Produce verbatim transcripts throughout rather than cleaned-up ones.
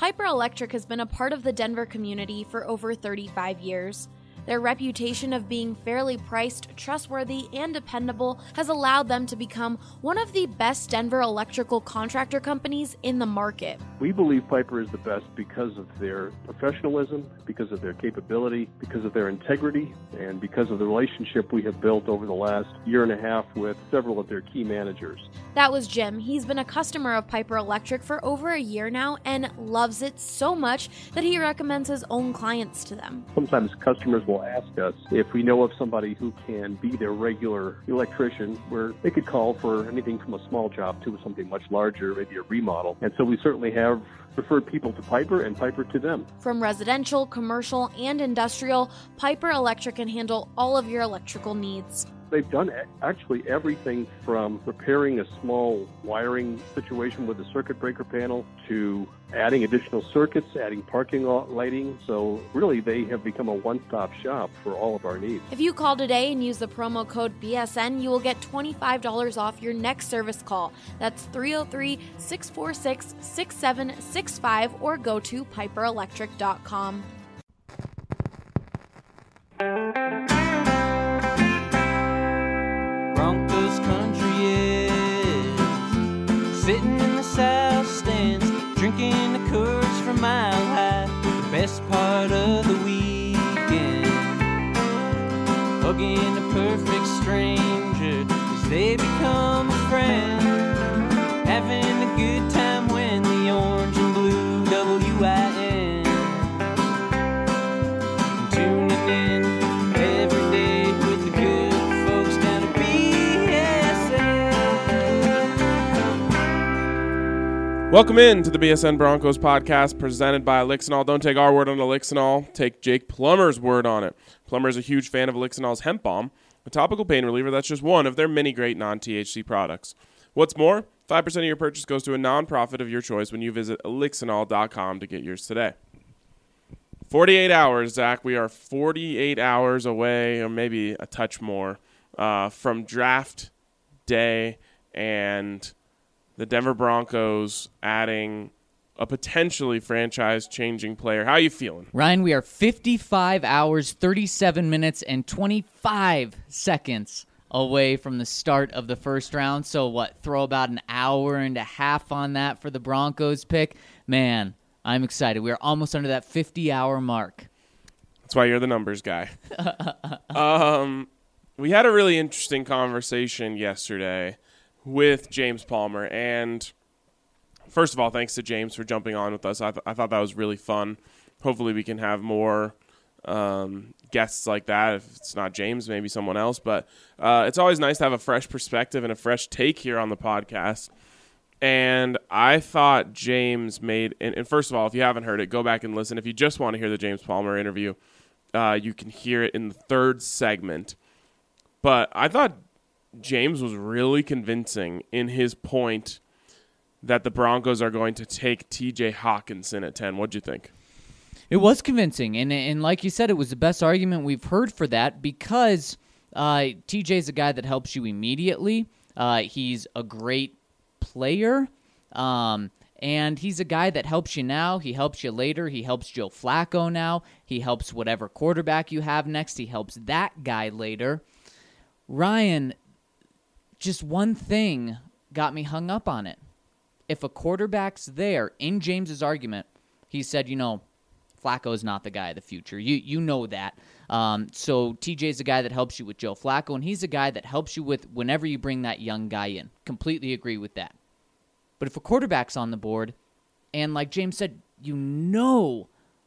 Piper Electric has been a part of the Denver community for over thirty-five years. Their reputation of being fairly priced, trustworthy, and dependable has allowed them to become one of the best Denver electrical contractor companies in the market. We believe Piper is the best because of their professionalism, because of their capability, because of their integrity, and because of the relationship we have built over the last year and a half with several of their key managers. That was Jim. He's been a customer of Piper Electric for over a year now and loves it so much that he recommends his own clients to them. Sometimes customers will ask us if we know of somebody who can be their regular electrician, where they could call for anything from a small job to something much larger, maybe a remodel. And so we certainly have referred people to Piper and Piper to them. From residential, commercial, and industrial, Piper Electric can handle all of your electrical needs. They've done actually everything from repairing a small wiring situation with a circuit breaker panel to adding additional circuits, adding parking lot lighting. So really, they have become a one-stop shop for all of our needs. If you call today and use the promo code B S N, you will get twenty-five dollars off your next service call. That's three oh three, six four six, six seven six five or go to piper electric dot com. Broncos country is sitting in the south stands, drinking the Coors from Mile High. The best part of the weekend, hugging a perfect stranger as they become a friend, having a good time when the orange and blue W I N, tuning in every day with the good folks down at B S N. Welcome in to the B S N Broncos podcast presented by Elixinol. Don't take our word on Elixinol. Take Jake Plummer's word on it. Plummer is a huge fan of Elixinol's Hemp Balm, a topical pain reliever that's just one of their many great non-T H C products. What's more, five percent of your purchase goes to a nonprofit of your choice when you visit elixinol dot com to get yours today. forty-eight hours, Zach. We are forty-eight hours away, or maybe a touch more, uh, from draft day and the Denver Broncos adding a potentially franchise-changing player. How are you feeling? Ryan, we are fifty-five hours, thirty-seven minutes, and twenty-five seconds away from the start of the first round. So what, throw about an hour and a half on that for the Broncos pick? Man, I'm excited. We are almost under that fifty-hour mark. That's why you're the numbers guy. um, we had a really interesting conversation yesterday with James Palmer, and first of all, thanks to James for jumping on with us. I, th- I thought that was really fun. Hopefully we can have more um, guests like that. If it's not James, maybe someone else. But uh, it's always nice to have a fresh perspective and a fresh take here on the podcast. And I thought James made, and, and first of all, if you haven't heard it, go back and listen. If you just want to hear the James Palmer interview, uh, you can hear it in the third segment. But I thought James was really convincing in his point that the Broncos are going to take T J Hockenson at ten. What'd you think? It was convincing, and and like you said, it was the best argument we've heard for that because uh, T J's a guy that helps you immediately. Uh, he's a great player, um, and he's a guy that helps you now. He helps you later. He helps Joe Flacco now. He helps whatever quarterback you have next. He helps that guy later. Ryan, just one thing got me hung up on it. If a quarterback's there, in James's argument, he said, you know, Flacco's not the guy of the future. You you know that. Um, so T J's a guy that helps you with Joe Flacco, and he's a guy that helps you with whenever you bring that young guy in. Completely agree with that. But if a quarterback's on the board, and like James said, you know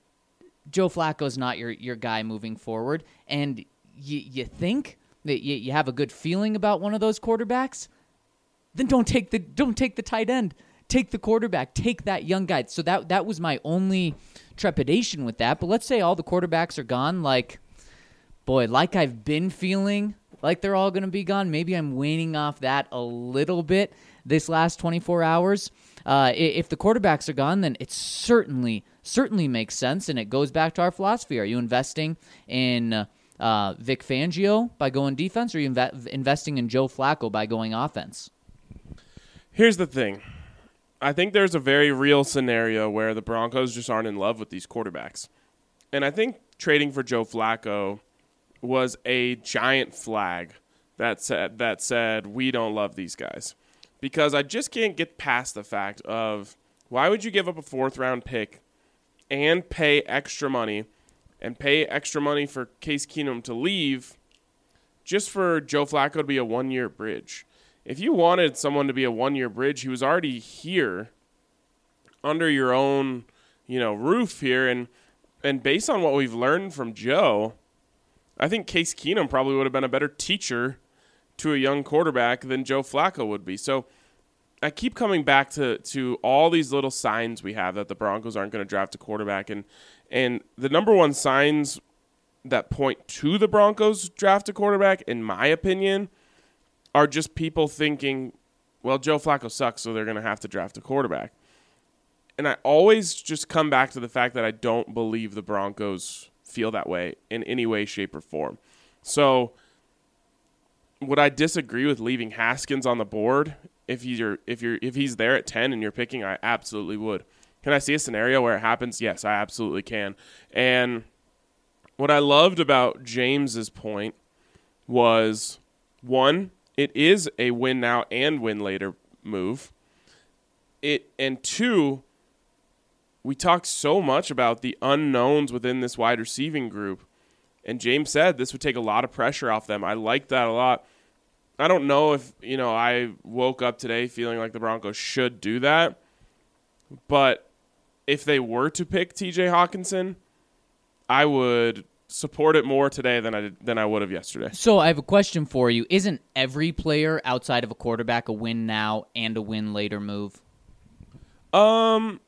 Joe Flacco's not your, your guy moving forward, and you, you think that you, you have a good feeling about one of those quarterbacks, then don't take the don't take the tight end. Take the quarterback. Take that young guy. So that that was my only trepidation with that. But let's say all the quarterbacks are gone. Like, boy, like I've been feeling like they're all going to be gone. Maybe I'm waning off that a little bit this last twenty-four hours. Uh, if the quarterbacks are gone, then it certainly, certainly makes sense. And it goes back to our philosophy. Are you investing in uh, Vic Fangio by going defense, or are you inve- investing in Joe Flacco by going offense? Here's the thing. I think there's a very real scenario where the Broncos just aren't in love with these quarterbacks. And I think trading for Joe Flacco was a giant flag that said, that said we don't love these guys. Because I just can't get past the fact of why would you give up a fourth-round pick and pay extra money and pay extra money for Case Keenum to leave just for Joe Flacco to be a one-year bridge? If you wanted someone to be a one-year bridge, he was already here under your own, you know, roof here. And, and based on what we've learned from Joe, I think Case Keenum probably would have been a better teacher to a young quarterback than Joe Flacco would be. So I keep coming back to, to all these little signs we have that the Broncos aren't going to draft a quarterback. And, and the number one signs that point to the Broncos draft a quarterback, in my opinion, are just people thinking, well, Joe Flacco sucks, so they're going to have to draft a quarterback. And I always just come back to the fact that I don't believe the Broncos feel that way in any way, shape, or form. So would I disagree with leaving Haskins on the board if you're if you're if he's there at ten and you're picking? I absolutely would. Can I see a scenario where it happens? Yes, I absolutely can. And what I loved about James's point was, one, it is a win now and win later move. It and two, we talked so much about the unknowns within this wide receiving group. And James said this would take a lot of pressure off them. I like that a lot. I don't know if, you know, I woke up today feeling like the Broncos should do that. But if they were to pick T J Hawkinson, I would support it more today than I did, than I would have yesterday. So I have a question for you. Isn't every player outside of a quarterback a win now and a win later move? Um,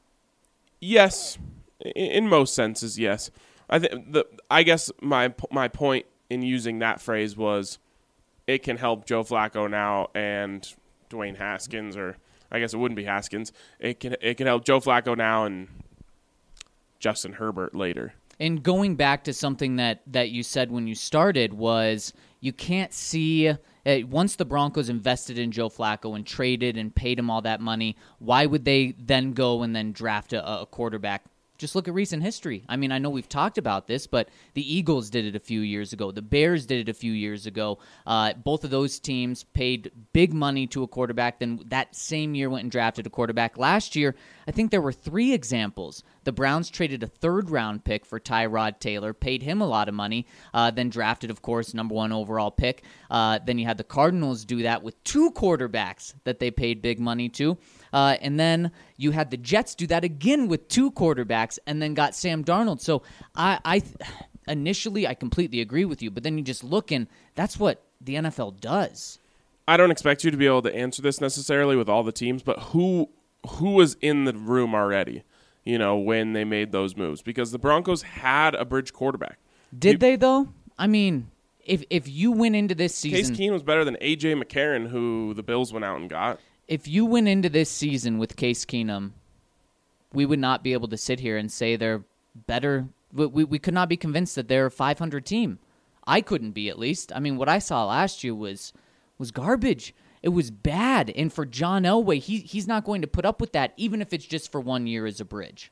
yes, in, in most senses, yes. I think the I guess my my point in using that phrase was it can help Joe Flacco now and Dwayne Haskins, or I guess it wouldn't be Haskins. It can it can help Joe Flacco now and Justin Herbert later. And going back to something that, that you said when you started was you can't see uh, once the Broncos invested in Joe Flacco and traded and paid him all that money, why would they then go and then draft a, a quarterback? Just look at recent history. I mean, I know we've talked about this, but the Eagles did it a few years ago. The Bears did it a few years ago. Uh, both of those teams paid big money to a quarterback, then that same year went and drafted a quarterback. Last year, I think there were three examples. The Browns traded a third-round pick for Tyrod Taylor, paid him a lot of money, uh, then drafted, of course, number one overall pick. Uh, then you had the Cardinals do that with two quarterbacks that they paid big money to. Uh, and then you had the Jets do that again with two quarterbacks and then got Sam Darnold. So I, I initially, I completely agree with you, but then you just look and that's what the N F L does. I don't expect you to be able to answer this necessarily with all the teams, but who who was in the room already, you know, when they made those moves? Because the Broncos had a bridge quarterback. Did you, they, though? I mean, if if you went into this season... Case Keenum was better than A J McCarron, who the Bills went out and got. If you went into this season with Case Keenum, we would not be able to sit here and say they're better. We, we, we could not be convinced that they're a five hundred team. I couldn't be, at least. I mean, what I saw last year was was garbage. It was bad. And for John Elway, he he's not going to put up with that, even if it's just for one year as a bridge.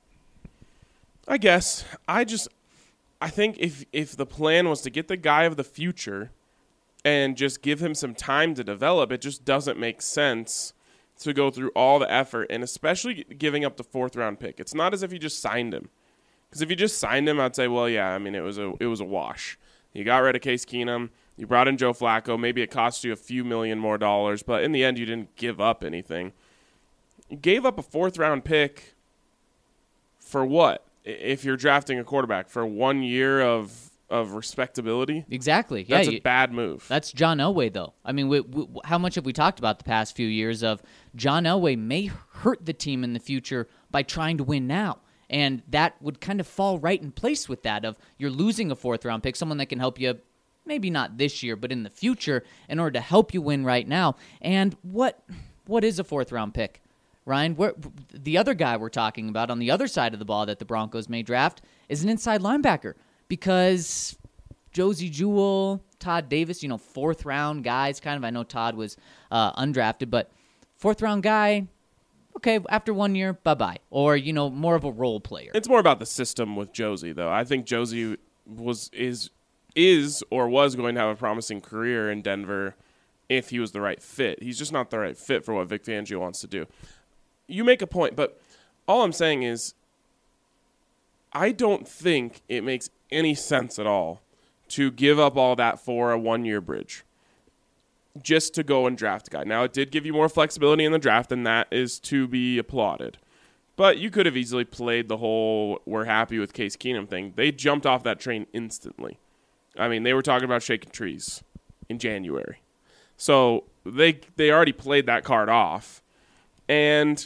I guess. I just, I think if if the plan was to get the guy of the future and just give him some time to develop, it just doesn't make sense to go through all the effort, and especially giving up the fourth round pick. It's not as if you just signed him. Because if you just signed him, I'd say, well, yeah, I mean, it was a it was a wash. You got rid of Case Keenum. You brought in Joe Flacco. Maybe it cost you a few million more dollars, but in the end, you didn't give up anything. You gave up a fourth round pick for what? If you're drafting a quarterback for one year of of respectability? Exactly. Yeah, That's a you, bad move. That's John Elway, though. I mean, we, we, how much have we talked about the past few years of John Elway may hurt the team in the future by trying to win now? And that would kind of fall right in place with that of you're losing a fourth-round pick, someone that can help you, maybe not this year, but in the future, in order to help you win right now. And what what is a fourth-round pick? Ryan, where, the other guy we're talking about on the other side of the ball that the Broncos may draft is an inside linebacker. Because Josie Jewell, Todd Davis, you know, fourth-round guys kind of. I know Todd was uh, undrafted, but fourth-round guy, okay, after one year, bye-bye. Or, you know, more of a role player. It's more about the system with Josie, though. I think Josie was is is or was going to have a promising career in Denver if he was the right fit. He's just not the right fit for what Vic Fangio wants to do. You make a point, but all I'm saying is I don't think it makes any sense at all to give up all that for a one-year bridge just to go and draft a guy. Now, it did give you more flexibility in the draft, and that is to be applauded. But you could have easily played the whole we're happy with Case Keenum thing. They jumped off that train instantly. I mean, they were talking about shaking trees in January. So they they already played that card off. And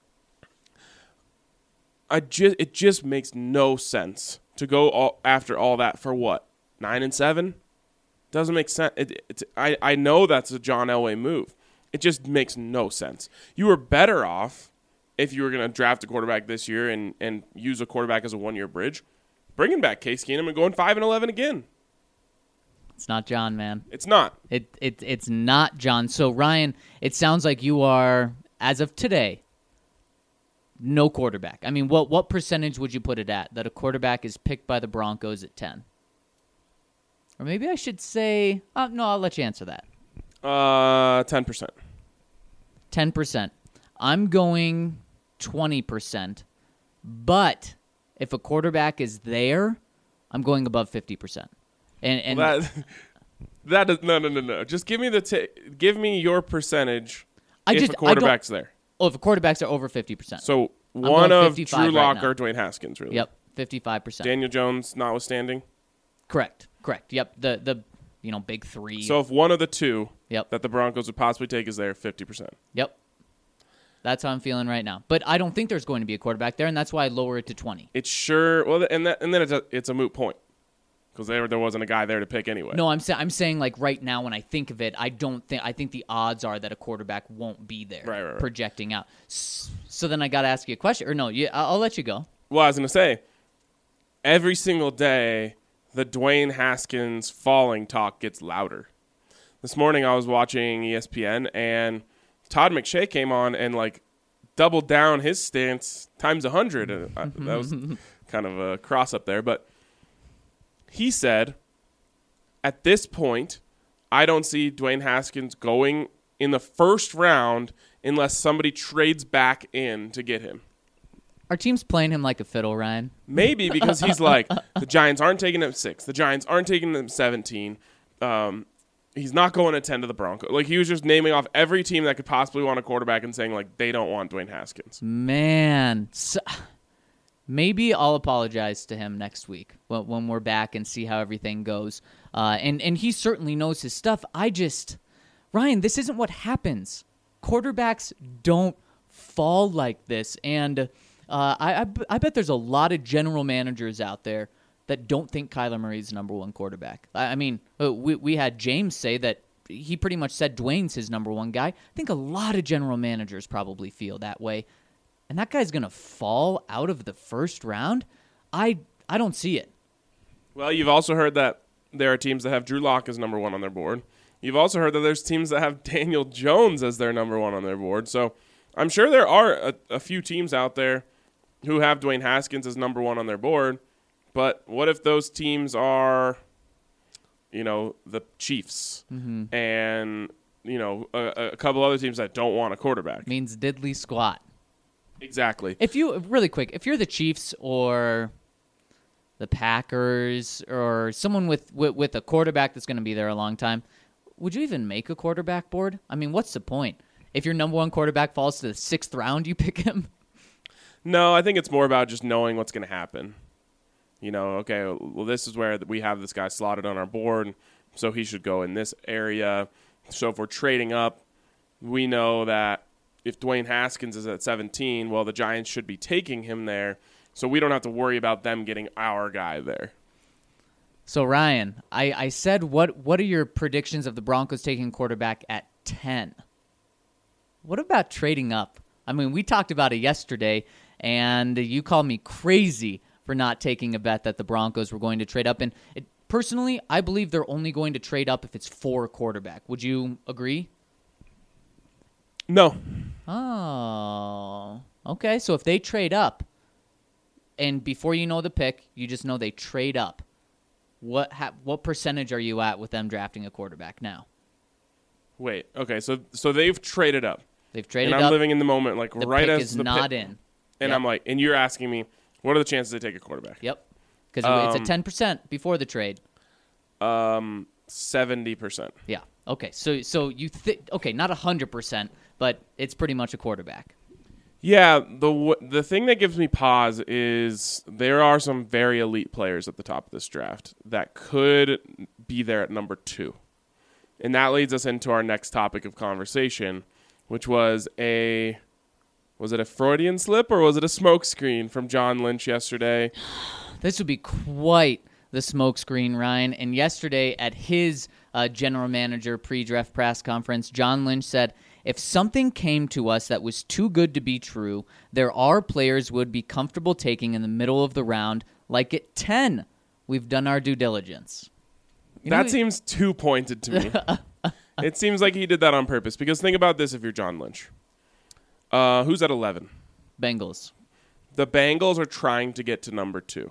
I just it just makes no sense to go all, after all that for what? Nine and seven? Doesn't make sense. It, it, I, I know that's a John Elway move. It just makes no sense. You were better off if you were going to draft a quarterback this year and, and use a quarterback as a one-year bridge, bringing back Case Keenum and going five and eleven again. It's not John, man. It's not. It it it's not John. So Ryan, it sounds like you are, as of today, no quarterback. I mean, what what percentage would you put it at that a quarterback is picked by the Broncos at ten? Or maybe I should say, uh, no, I'll let you answer that. Uh, ten percent. ten percent. I'm going twenty percent. But if a quarterback is there, I'm going above fifty percent. And and well, that that is no no no no. Just give me the t- give me your percentage I if just, a quarterback's there. Oh, if a quarterbacks are over fifty percent. So one of Drew fifty-five Lock right now. or Dwayne Haskins, really. Yep, fifty-five percent. Daniel Jones notwithstanding. Correct, correct. Yep, the the you know big three. So if one of the two Yep. that the Broncos would possibly take is there, fifty percent. Yep. That's how I'm feeling right now. But I don't think there's going to be a quarterback there, and that's why I lower it to twenty. It's sure well, and that and then it's a, it's a moot point because there there wasn't a guy there to pick anyway. No, I'm saying I'm saying like right now when I think of it, I don't think I think the odds are that a quarterback won't be there. Right, right, right. Projecting out. So then I got to ask you a question, or no? You, I'll, I'll let you go. Well, I was gonna say, every single day, the Dwayne Haskins falling talk gets louder. This morning I was watching E S P N and Todd McShay came on and like doubled down his stance times a hundred. Uh, that was kind of a cross up there, but he said, at this point, I don't see Dwayne Haskins going in the first round unless somebody trades back in to get him. Our team's playing him like a fiddle, Ryan. Maybe because he's like, the Giants aren't taking him six. The Giants aren't taking him seventeen. Um, he's not going at ten to the Broncos. Like, he was just naming off every team that could possibly want a quarterback and saying, like, they don't want Dwayne Haskins. Man, so, maybe I'll apologize to him next week when, when we're back and see how everything goes. Uh, and, and he certainly knows his stuff. I just, Ryan, this isn't what happens. Quarterbacks don't fall like this. And uh, I, I, I bet there's a lot of general managers out there that don't think Kyler Murray's the number one quarterback. I, I mean, we, we had James say that he pretty much said Dwayne's his number one guy. I think a lot of general managers probably feel that way. And that guy's going to fall out of the first round? I I don't see it. Well, you've also heard that there are teams that have Drew Lock as number one on their board. You've also heard that there's teams that have Daniel Jones as their number one on their board. So I'm sure there are a, a few teams out there who have Dwayne Haskins as number one on their board. But what if those teams are, you know, the Chiefs Mm-hmm. and, you know, a, a couple other teams that don't want a quarterback? Means diddly squat. Exactly. If you, really quick, if you're the Chiefs or the Packers or someone with, with, with a quarterback that's going to be there a long time, would you even make a quarterback board? I mean, what's the point? If your number one quarterback falls to the sixth round, you pick him? No, I think it's more about just knowing what's going to happen. You know, okay, well, this is where we have this guy slotted on our board, so he should go in this area. So if we're trading up, we know that if Dwayne Haskins is at seventeen, well, the Giants should be taking him there, so we don't have to worry about them getting our guy there. So, Ryan, I, I said, what what are your predictions of the Broncos taking quarterback at ten? What about trading up? I mean, we talked about it yesterday, and you called me crazy for not taking a bet that the Broncos were going to trade up. And it, personally, I believe they're only going to trade up if it's for a quarterback. Would you agree? No. Oh, okay. So if they trade up, and before you know the pick, you just know they trade up, what ha- what percentage are you at with them drafting a quarterback now? Wait. Okay. So so they've traded up. They've traded and I'm up. living in the moment, like the right pick as is the not pick, in. and Yep. I'm like, and you're asking me, what are the chances they take a quarterback? Yep. Because it's Um, a ten percent before the trade. Um, seventy percent. Yeah. Okay. So so you think okay, not a hundred percent, but it's pretty much a quarterback. Yeah, the w- the thing that gives me pause is there are some very elite players at the top of this draft that could be there at number two. And that leads us into our next topic of conversation, which was a was it a Freudian slip or was it a smokescreen from John Lynch yesterday? This would be quite the smokescreen, Ryan. And yesterday at his uh, general manager pre-draft press conference, John Lynch said, if something came to us that was too good to be true, there are players would be comfortable taking in the middle of the round, like at ten. We've done our due diligence. You That know, seems too pointed to me. It seems like he did that on purpose. Because think about this if you're John Lynch. Uh, who's at eleven? Bengals. The Bengals are trying to get to number two.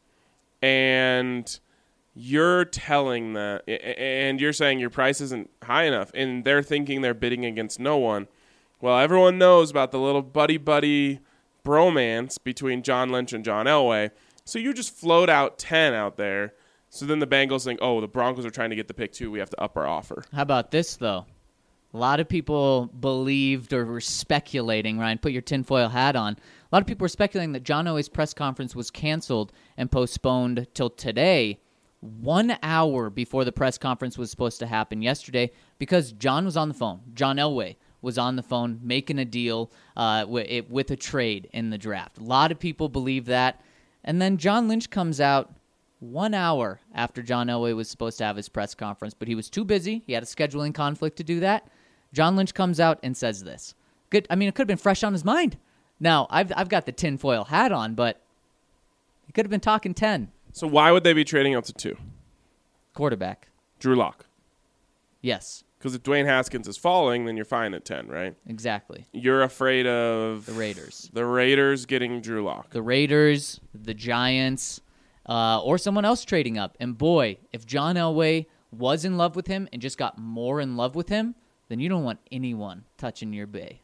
And you're telling that, and you're saying your price isn't high enough, and they're thinking they're bidding against no one. Well, everyone knows about the little buddy-buddy bromance between John Lynch and John Elway. So you just float out ten out there. So then the Bengals think, oh, the Broncos are trying to get the pick too. We have to up our offer. How about this, though? A lot of people believed or were speculating, Ryan, put your tinfoil hat on. A lot of people were speculating that John Elway's press conference was canceled and postponed till today, one hour before the press conference was supposed to happen yesterday, because John was on the phone. John Elway was on the phone making a deal uh, with, it, with a trade in the draft. A lot of people believe that. And then John Lynch comes out one hour after John Elway was supposed to have his press conference, but he was too busy. He had a scheduling conflict to do that. John Lynch comes out and says this. Good. I mean, it could have been fresh on his mind. Now, I've I've got the tinfoil hat on, but he could have been talking ten. So why would they be trading up to two? Quarterback. Drew Lock. Yes, Because if Dwayne Haskins is falling, then you're fine at ten, right? exactly. You're afraid of The Raiders. the Raiders getting Drew Lock. The Raiders, the Giants, uh, or someone else trading up. And boy, if John Elway was in love with him and just got more in love with him, then you don't want anyone touching your bay.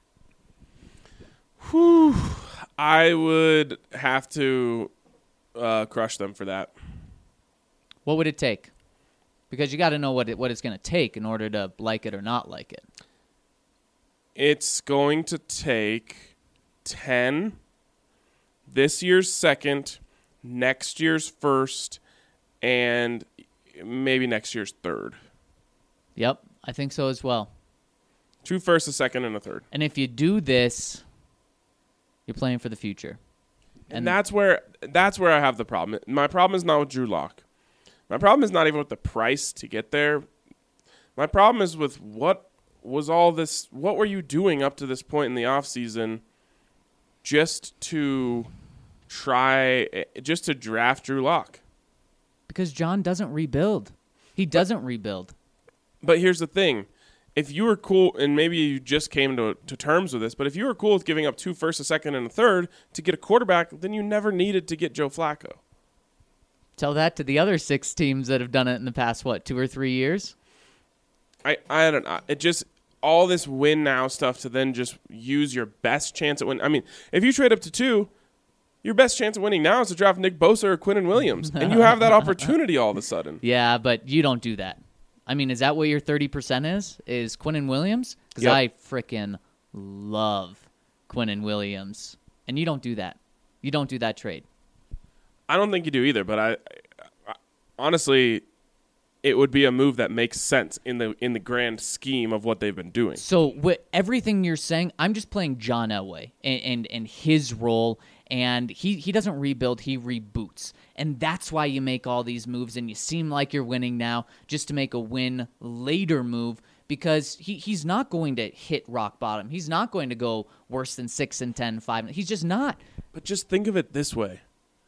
Whew. I would have to uh, crush them for that. What would it take? Because you got to know what it, what it's going to take in order to like it or not like it. It's going to take ten, this year's second, next year's first, and maybe next year's third. Yep, I think so as well. Two firsts, a second, and a third. And if you do this, you're playing for the future. And, And- that's where that's where I have the problem. My problem is not with Drew Lock. My problem is not even with the price to get there. My problem is with what was all this, what were you doing up to this point in the offseason just to try, just to draft Drew Lock? Because John doesn't rebuild. He doesn't rebuild. But here's the thing. If you were cool, and maybe you just came to, to terms with this, but if you were cool with giving up two firsts, a second, and a third to get a quarterback, then you never needed to get Joe Flacco. Tell that to the other six teams that have done it in the past, what, two or three years? I, I don't know. It just, all this win now stuff to then just use your best chance at winning. I mean, if you trade up to two, your best chance of winning now is to draft Nick Bosa or Quinnen Williams. And you have that opportunity all of a sudden. Yeah, but you don't do that. I mean, is that what your thirty percent is? Is Quinnen Williams? Because Yep. I frickin' love Quinnen Williams. And you don't do that. You don't do that trade. I don't think you do either, but I, I honestly, it would be a move that makes sense in the in the grand scheme of what they've been doing. So with everything you're saying, I'm just playing John Elway and, and, and his role, and he, he doesn't rebuild, he reboots. And that's why you make all these moves, and you seem like you're winning now just to make a win later move, because he, he's not going to hit rock bottom. He's not going to go worse than six and ten, five. He's just not. But just think of it this way.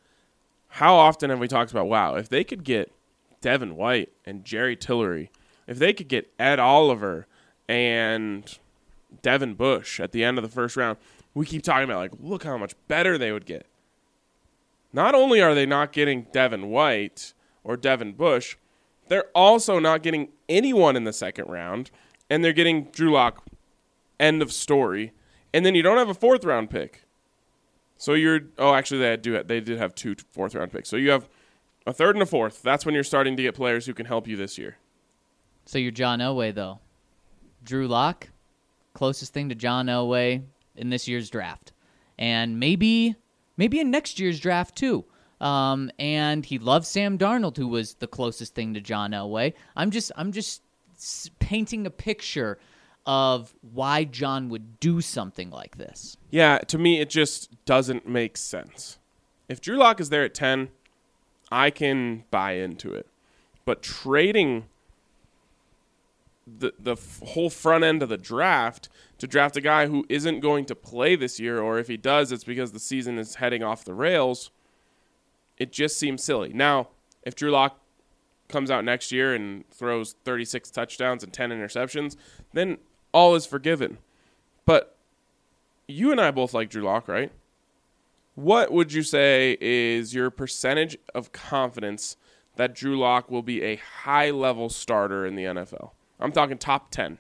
How often have we talked about, wow, if they could get Devin White and Jerry Tillery, if they could get Ed Oliver and Devin Bush at the end of the first round. We keep talking about, like, look how much better they would get. Not only are they not getting Devin White or Devin Bush, they're also not getting anyone in the second round, and they're getting Drew Lock. End of story. And then you don't have a fourth round pick. So you're oh actually they do they did have two fourth round picks. So you have a third and a fourth. That's when you're starting to get players who can help you this year. So you're John Elway though. Drew Lock, closest thing to John Elway in this year's draft. And maybe maybe in next year's draft too. Um, and he loves Sam Darnold, who was the closest thing to John Elway. I'm just I'm just painting a picture of why John would do something like this. Yeah, to me, it just doesn't make sense. If Drew Lock is there at ten, I can buy into it. But trading the the f- whole front end of the draft to draft a guy who isn't going to play this year, or if he does, it's because the season is heading off the rails, it just seems silly. Now, if Drew Lock comes out next year and throws thirty-six touchdowns and ten interceptions, then all is forgiven. But you and I both like Drew Lock, right? What would you say is your percentage of confidence that Drew Lock will be a high-level starter in the N F L? I'm talking top ten.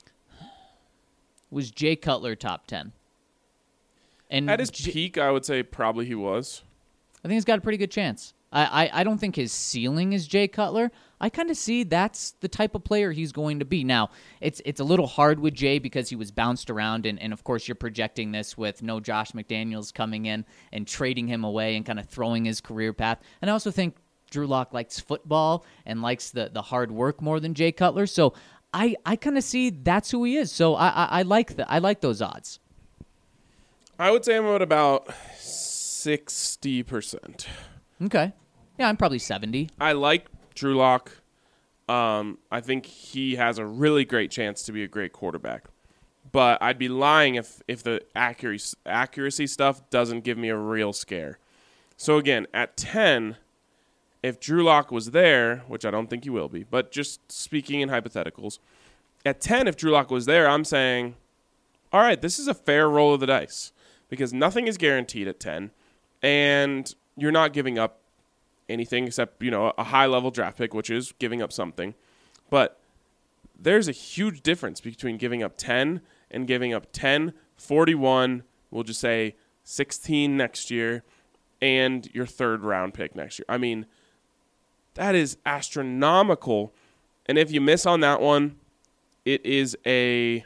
Was Jay Cutler top ten? And at his J- peak, I would say probably he was. I think he's got a pretty good chance. I, I, I don't think his ceiling is Jay Cutler. I kind of see that's the type of player he's going to be. Now, it's it's a little hard with Jay because he was bounced around, and, and of course you're projecting this with no Josh McDaniels coming in and trading him away and kind of throwing his career path. And I also think Drew Lock likes football and likes the, the hard work more than Jay Cutler. So I, I kind of see that's who he is. So I, I, I like the, I like those odds. I would say I'm at about sixty percent. Okay. Yeah, I'm probably seventy. I like Drew Lock. Um, I think he has a really great chance to be a great quarterback. But I'd be lying if, if the accuracy, accuracy stuff doesn't give me a real scare. So again, at ten, if Drew Lock was there, which I don't think he will be, but just speaking in hypotheticals, at ten, if Drew Lock was there, I'm saying, all right, this is a fair roll of the dice because nothing is guaranteed at ten, and you're not giving up anything except, you know, a high-level draft pick, which is giving up something. But there's a huge difference between giving up ten and giving up ten, forty-one, we'll just say sixteen next year, and your third-round pick next year. I mean, that is astronomical. And if you miss on that one, it is a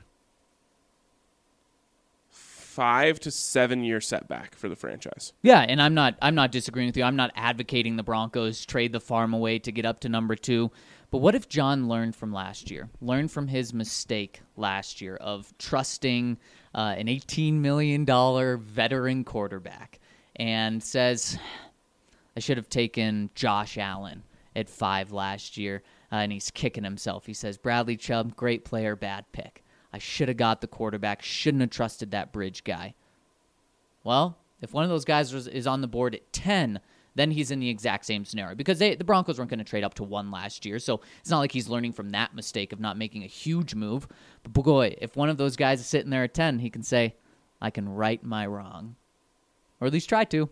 five to seven year setback for the franchise. Yeah, and I'm not I'm not disagreeing with you. I'm not advocating the Broncos trade the farm away to get up to number two. But what if John learned from last year? Learned from his mistake last year of trusting uh, an eighteen million dollars veteran quarterback and says, I should have taken Josh Allen at five last year, uh, and he's kicking himself. He says, Bradley Chubb, great player, bad pick. I should have got the quarterback, shouldn't have trusted that bridge guy. Well, if one of those guys was, is on the board at ten, then he's in the exact same scenario because they, the Broncos weren't going to trade up to one last year, so it's not like he's learning from that mistake of not making a huge move. But boy, if one of those guys is sitting there at ten, he can say, I can right my wrong. Or at least try to.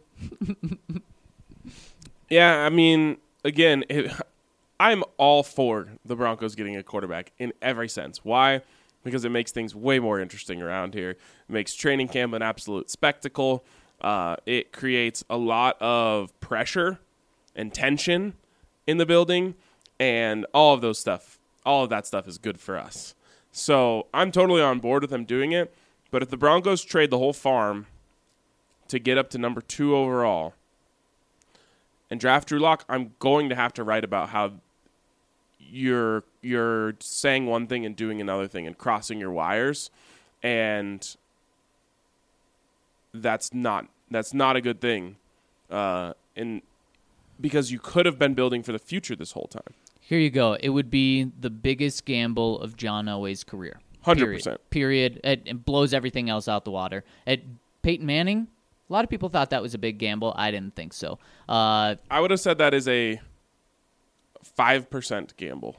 Yeah, I mean, again, it, I'm all for the Broncos getting a quarterback in every sense. Why? Because it makes things way more interesting around here. It makes training camp an absolute spectacle. Uh, it creates a lot of pressure and tension in the building, and all of those stuff, all of that stuff is good for us. So I'm totally on board with them doing it, but if the Broncos trade the whole farm to get up to number two overall and draft Drew Lock, I'm going to have to write about how you're you're saying one thing and doing another thing and crossing your wires, and that's not that's not a good thing, uh, and because you could have been building for the future this whole time. Here you go. It would be the biggest gamble of John Elway's career. one hundred percent. Period. Period. It, it blows everything else out the water. At Peyton Manning, a lot of people thought that was a big gamble. I didn't think so. Uh, I would have said that is a five percent gamble.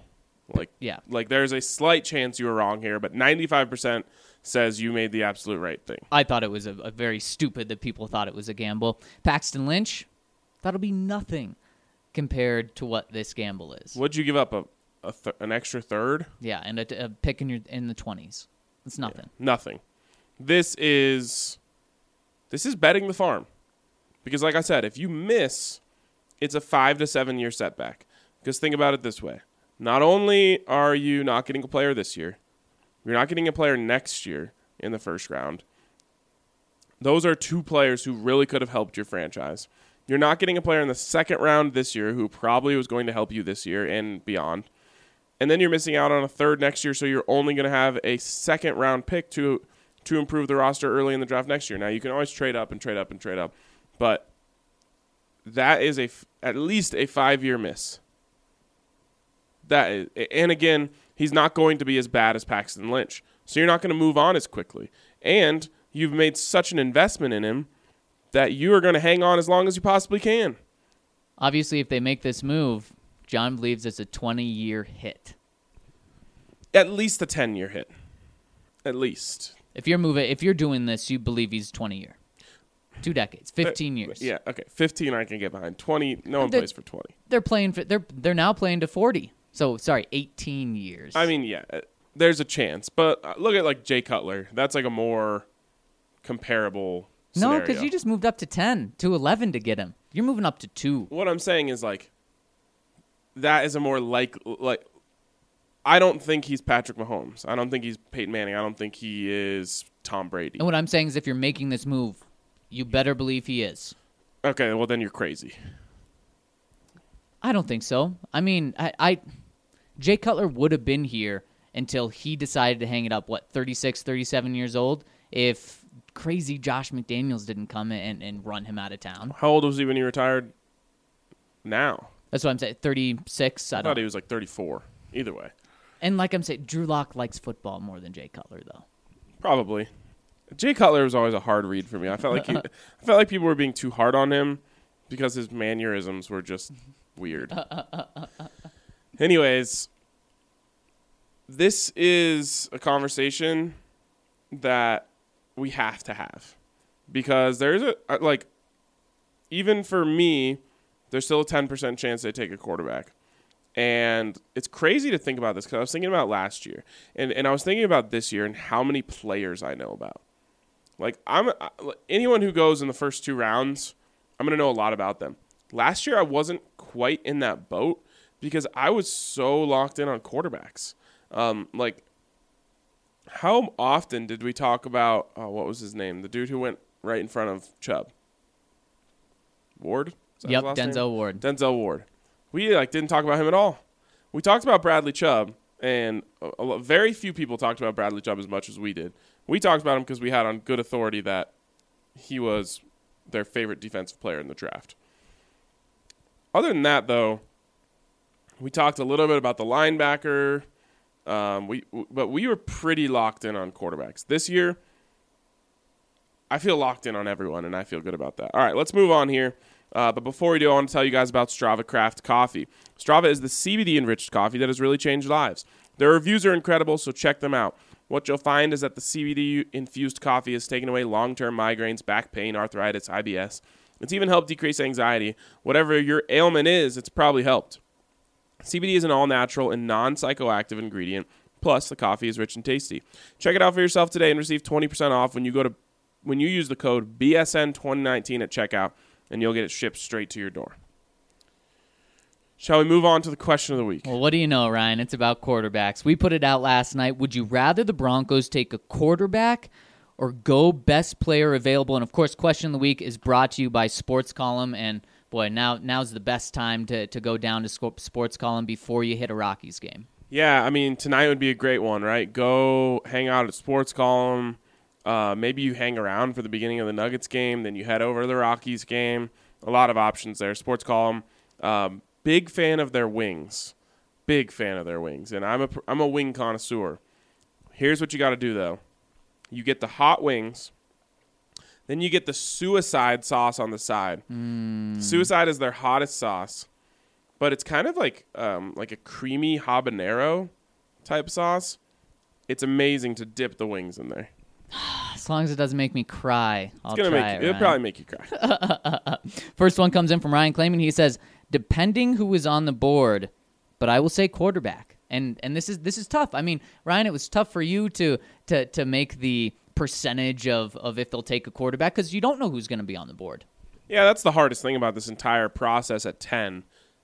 Like, Yeah. like there's a slight chance you were wrong here, but ninety-five percent says you made the absolute right thing. I thought it was a, a very stupid that people thought it was a gamble. Paxton Lynch, that'll be nothing compared to what this gamble is. What'd you give up? A, a th- an extra third? Yeah, and a, a pick in your in the twenties. It's nothing. Yeah, nothing. This is this is betting the farm. Because like I said, if you miss, it's a five to seven year setback. Because think about it this way. Not only are you not getting a player this year, you're not getting a player next year in the first round. Those are two players who really could have helped your franchise. You're not getting a player in the second round this year who probably was going to help you this year and beyond. And then you're missing out on a third next year, so you're only going to have a second round pick to to improve the roster early in the draft next year. Now, you can always trade up and trade up and trade up, but that is a at least a five-year miss. That is, and again, he's not going to be as bad as Paxton Lynch, so you're not going to move on as quickly. And you've made such an investment in him that you are going to hang on as long as you possibly can. Obviously, if they make this move, John believes it's a twenty-year hit. At least a ten-year hit. At least. If you're moving, if you're doing this, you believe he's twenty-year. Two decades, fifteen years. Yeah, okay. fifteen I can get behind. twenty, no one They're- plays for twenty. They're playing for they're they're now playing to forty. So sorry, eighteen years. I mean, yeah, uh, there's a chance. But uh, look at like Jay Cutler. That's like a more comparable no, scenario. because you just moved up to ten, to eleven to get him. You're moving up to two. What I'm saying is like that is a more like like I don't think he's Patrick Mahomes. I don't think he's Peyton Manning. I don't think he is Tom Brady. And what I'm saying is, if you're making this move, you better believe he is. Okay, well then you're crazy. I don't think so. I mean, I, I Jay Cutler would have been here until he decided to hang it up, what, thirty-six, thirty-seven years old, if crazy Josh McDaniels didn't come and, and run him out of town. How old was he when he retired? Now. That's what I'm saying, thirty-six. I, I don't thought he was like thirty-four. Either way. And like I'm saying, Drew Lock likes football more than Jay Cutler, though. Probably. Jay Cutler was always a hard read for me. I felt like he, I felt like people were being too hard on him because his mannerisms were just weird. Anyways, this is a conversation that we have to have because there's a like even for me, there's still a ten percent chance they take a quarterback. And it's crazy to think about this because I was thinking about last year and, and I was thinking about this year and how many players I know about. Like I'm anyone who goes in the first two rounds, I'm going to know a lot about them. Last year I wasn't quite in that boat because I was so locked in on quarterbacks. Um, like how often did we talk about oh, what was his name? The dude who went right in front of Chubb. Ward? Is that his Yep, last Denzel name? Ward. Denzel Ward. We like didn't talk about him at all. We talked about Bradley Chubb, and a, a, very few people talked about Bradley Chubb as much as we did. We talked about him because we had on good authority that he was their favorite defensive player in the draft. Other than that, though, we talked a little bit about the linebacker. Um, we, w- but we were pretty locked in on quarterbacks this year. I feel locked in on everyone, and I feel good about that. All right, let's move on here. Uh, but before we do, I want to tell you guys about Strava Craft Coffee. Strava is the C B D-enriched coffee that has really changed lives. Their reviews are incredible, so check them out. What you'll find is that the C B D-infused coffee has taken away long-term migraines, back pain, arthritis, I B S. It's even helped decrease anxiety. Whatever your ailment is, it's probably helped. C B D is an all-natural and non-psychoactive ingredient. Plus, the coffee is rich and tasty. Check it out for yourself today and receive twenty percent off when you go to when you use the code B S N twenty nineteen at checkout, and you'll get it shipped straight to your door. Shall we move on to the question of the week? Well, what do you know, Ryan? It's about quarterbacks. We put it out last night. Would you rather the Broncos take a quarterback or go best player available? And, of course, question of the week is brought to you by Sports Column. And, boy, now now's the best time to, to go down to Sports Column before you hit a Rockies game. Yeah, I mean, tonight would be a great one, right? Go hang out at Sports Column. Uh, maybe you hang around for the beginning of the Nuggets game, then you head over to the Rockies game. A lot of options there. Sports Column, um, big fan of their wings. Big fan of their wings. And I'm a, I'm a wing connoisseur. Here's what you got to do, though. You get the hot wings. Then you get the suicide sauce on the side. Mm. Suicide is their hottest sauce. but it's kind of like um, like a creamy habanero type sauce. It's amazing to dip the wings in there. As long as it doesn't make me cry, I'll It's gonna try make it. it'll Ryan. probably make you cry. First one comes in from Ryan Clayman. He says, depending who is on the board, but I will say quarterback. And and this is this is tough. I mean, Ryan, it was tough for you to to to make the percentage of, of if they'll take a quarterback because you don't know who's going to be on the board. Yeah, that's the hardest thing about this entire process at ten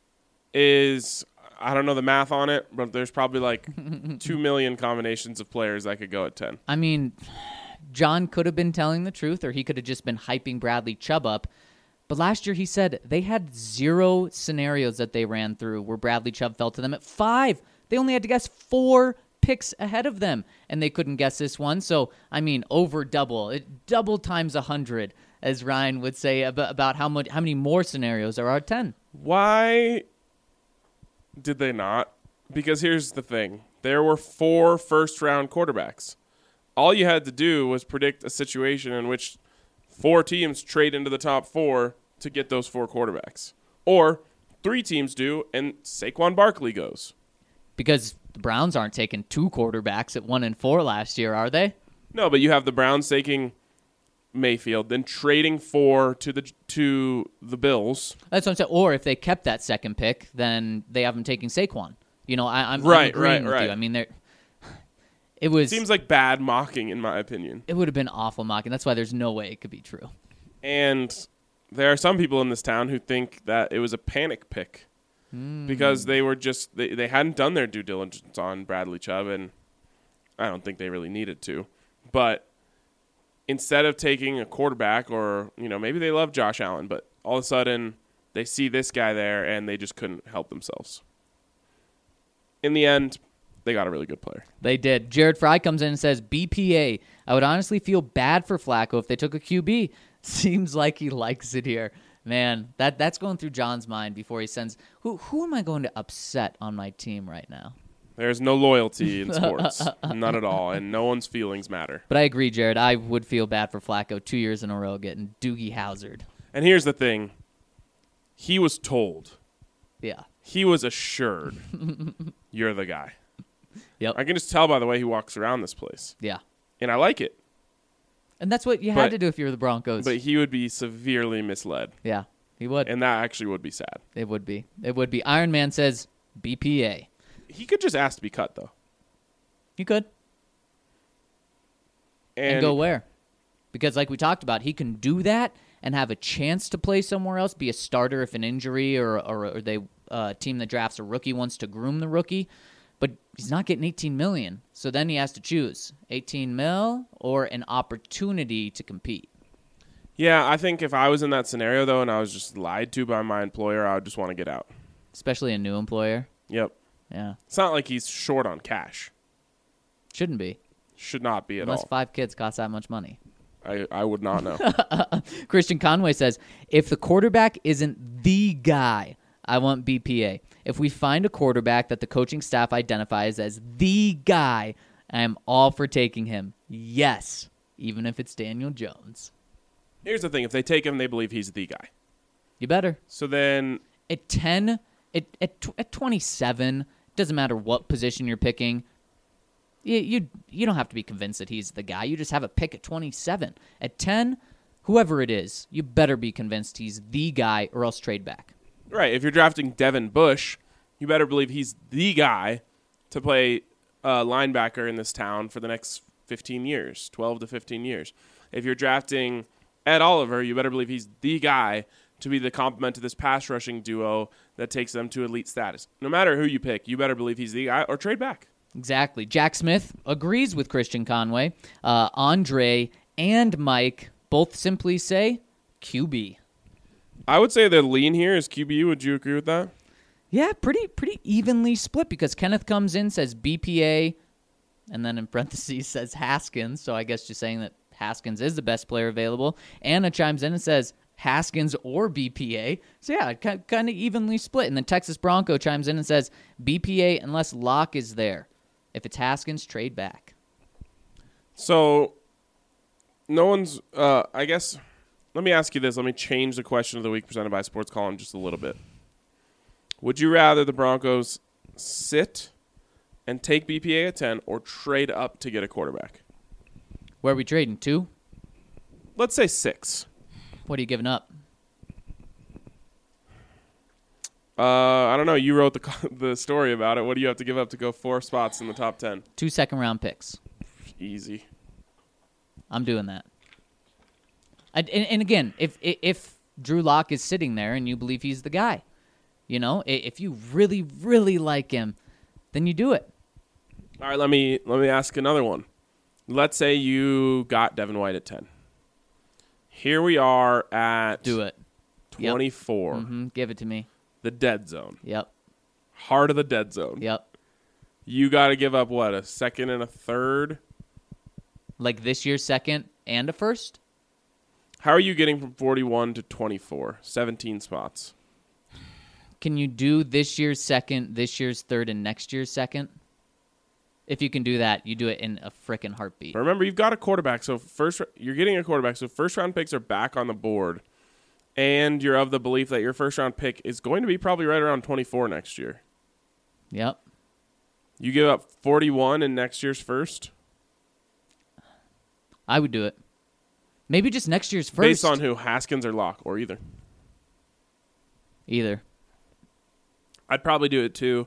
is I don't know the math on it, but there's probably like two million combinations of players that could go at ten. I mean, John could have been telling the truth, or he could have just been hyping Bradley Chubb up. But last year he said they had zero scenarios that they ran through where Bradley Chubb fell to them at five. They only had to guess four picks ahead of them, and they couldn't guess this one. So, I mean, over double, it, double times a hundred, as Ryan would say about, about how much, how many more scenarios there are at ten. Why did they not? Because here's the thing. There were four first-round quarterbacks. All you had to do was predict a situation in which four teams trade into the top four to get those four quarterbacks. Or three teams do, and Saquon Barkley goes. Because the Browns aren't taking two quarterbacks at one and four last year, are they? No, but you have the Browns taking Mayfield, then trading four to the to the Bills. That's what I'm saying. Or if they kept that second pick, then they have them taking Saquon. You know, I, I'm, Right, I'm agreeing right, with right. you. I mean, there. It was. Seems like bad mocking, in my opinion. It would have been awful mocking. That's why there's no way it could be true. And there are some people in this town who think that it was a panic pick Mm. because they were just they, they hadn't done their due diligence on Bradley Chubb, and I don't think they really needed to. But instead of taking a quarterback, or you know maybe they love Josh Allen, but all of a sudden they see this guy there and they just couldn't help themselves. In the end, they got a really good player. They did. Jared Fry comes in and says, B P A. I would honestly feel bad for Flacco if they took a Q B. Seems like he likes it here. Man, that that's going through John's mind before he sends. Who who am I going to upset on my team right now? There's no loyalty in sports. None at all. And no one's feelings matter. But I agree, Jared. I would feel bad for Flacco two years in a row getting Doogie Howsard. And here's the thing. He was told. Yeah. He was assured. You're the guy. Yep. I can just tell by the way he walks around this place. Yeah. And I like it. And that's what you But- had to do if you were the Broncos. But he would be severely misled. yeah, he would. And that actually would be sad. It would be. It would be. Iron Man says B P A. He could just ask to be cut, though. You could. And, And go where? Because like we talked about, he can do that and have a chance to play somewhere else, be a starter if an injury or or, or they uh, team that drafts a rookie wants to groom the rookie. But he's not getting eighteen million dollars. So then he has to choose eighteen mil or an opportunity to compete. Yeah, I think if I was in that scenario, though, and I was just lied to by my employer, I would just want to get out. Especially a new employer. Yep. Yeah. It's not like he's short on cash. Shouldn't be. Should not be at Unless all. five kids cost that much money. I, I would not know. Christian Conway says, if the quarterback isn't the guy, I want B P A. If we find a quarterback that the coaching staff identifies as the guy, I am all for taking him. Yes, even if it's Daniel Jones. Here's the thing. If they take him, they believe he's the guy. You better. So then, At ten, at, at, tw- at twenty-seven, doesn't matter what position you're picking. You, you, you don't have to be convinced that he's the guy. You just have a pick at twenty-seven. At ten, whoever it is, you better be convinced he's the guy or else trade back. right, if you're drafting Devin Bush, you better believe he's the guy to play uh, linebacker in this town for the next fifteen years, twelve to fifteen years. If you're drafting Ed Oliver, you better believe he's the guy to be the complement to this pass rushing duo that takes them to elite status. No matter who you pick, you better believe he's the guy or trade back. Exactly. Jack Smith agrees with Christian Conway. Uh, Andre and Mike both simply say Q B. I would say the lean here is Q B. Would you agree with that? Yeah, pretty pretty evenly split because Kenneth comes in, says B P A, and then in parentheses says Haskins. So I guess just saying that Haskins is the best player available. Anna chimes in and says Haskins or B P A. So yeah, kind of evenly split. And then Texas Bronco chimes in and says B P A unless Locke is there. If it's Haskins, trade back. So, no one's, uh, I guess, let me ask you this. Let me change the question of the week presented by Sports Column just a little bit. Would you rather the Broncos sit and take B P A at ten or trade up to get a quarterback? Where are we trading? Two? Let's say six. What are you giving up? Uh, I don't know. You wrote the the story about it. What do you have to give up to go four spots in the top ten? Two second round picks. Easy. I'm doing that. I, and, and again, if if Drew Lock is sitting there and you believe he's the guy, you know, if you really really like him, then you do it. All right, let me let me ask another one. Let's say you got Devin White at ten. Here we are at Do it. twenty-four. Yep. Mm-hmm. Give it to me. The dead zone. Yep. Heart of the dead zone. Yep. You got to give up, what, a second and a third? Like this year's second and a first? How are you getting from forty-one to twenty-four? seventeen spots. Can you do this year's second, this year's third, and next year's second? If you can do that, you do it in a frickin' heartbeat. But remember, you've got a quarterback, so first you're getting a quarterback, so first-round picks are back on the board, and you're of the belief that your first-round pick is going to be probably right around twenty-four next year. Yep. You give up forty-one in next year's first? I would do it. Maybe just next year's first. Based on who? Haskins or Locke, or either? Either. I'd probably do it too.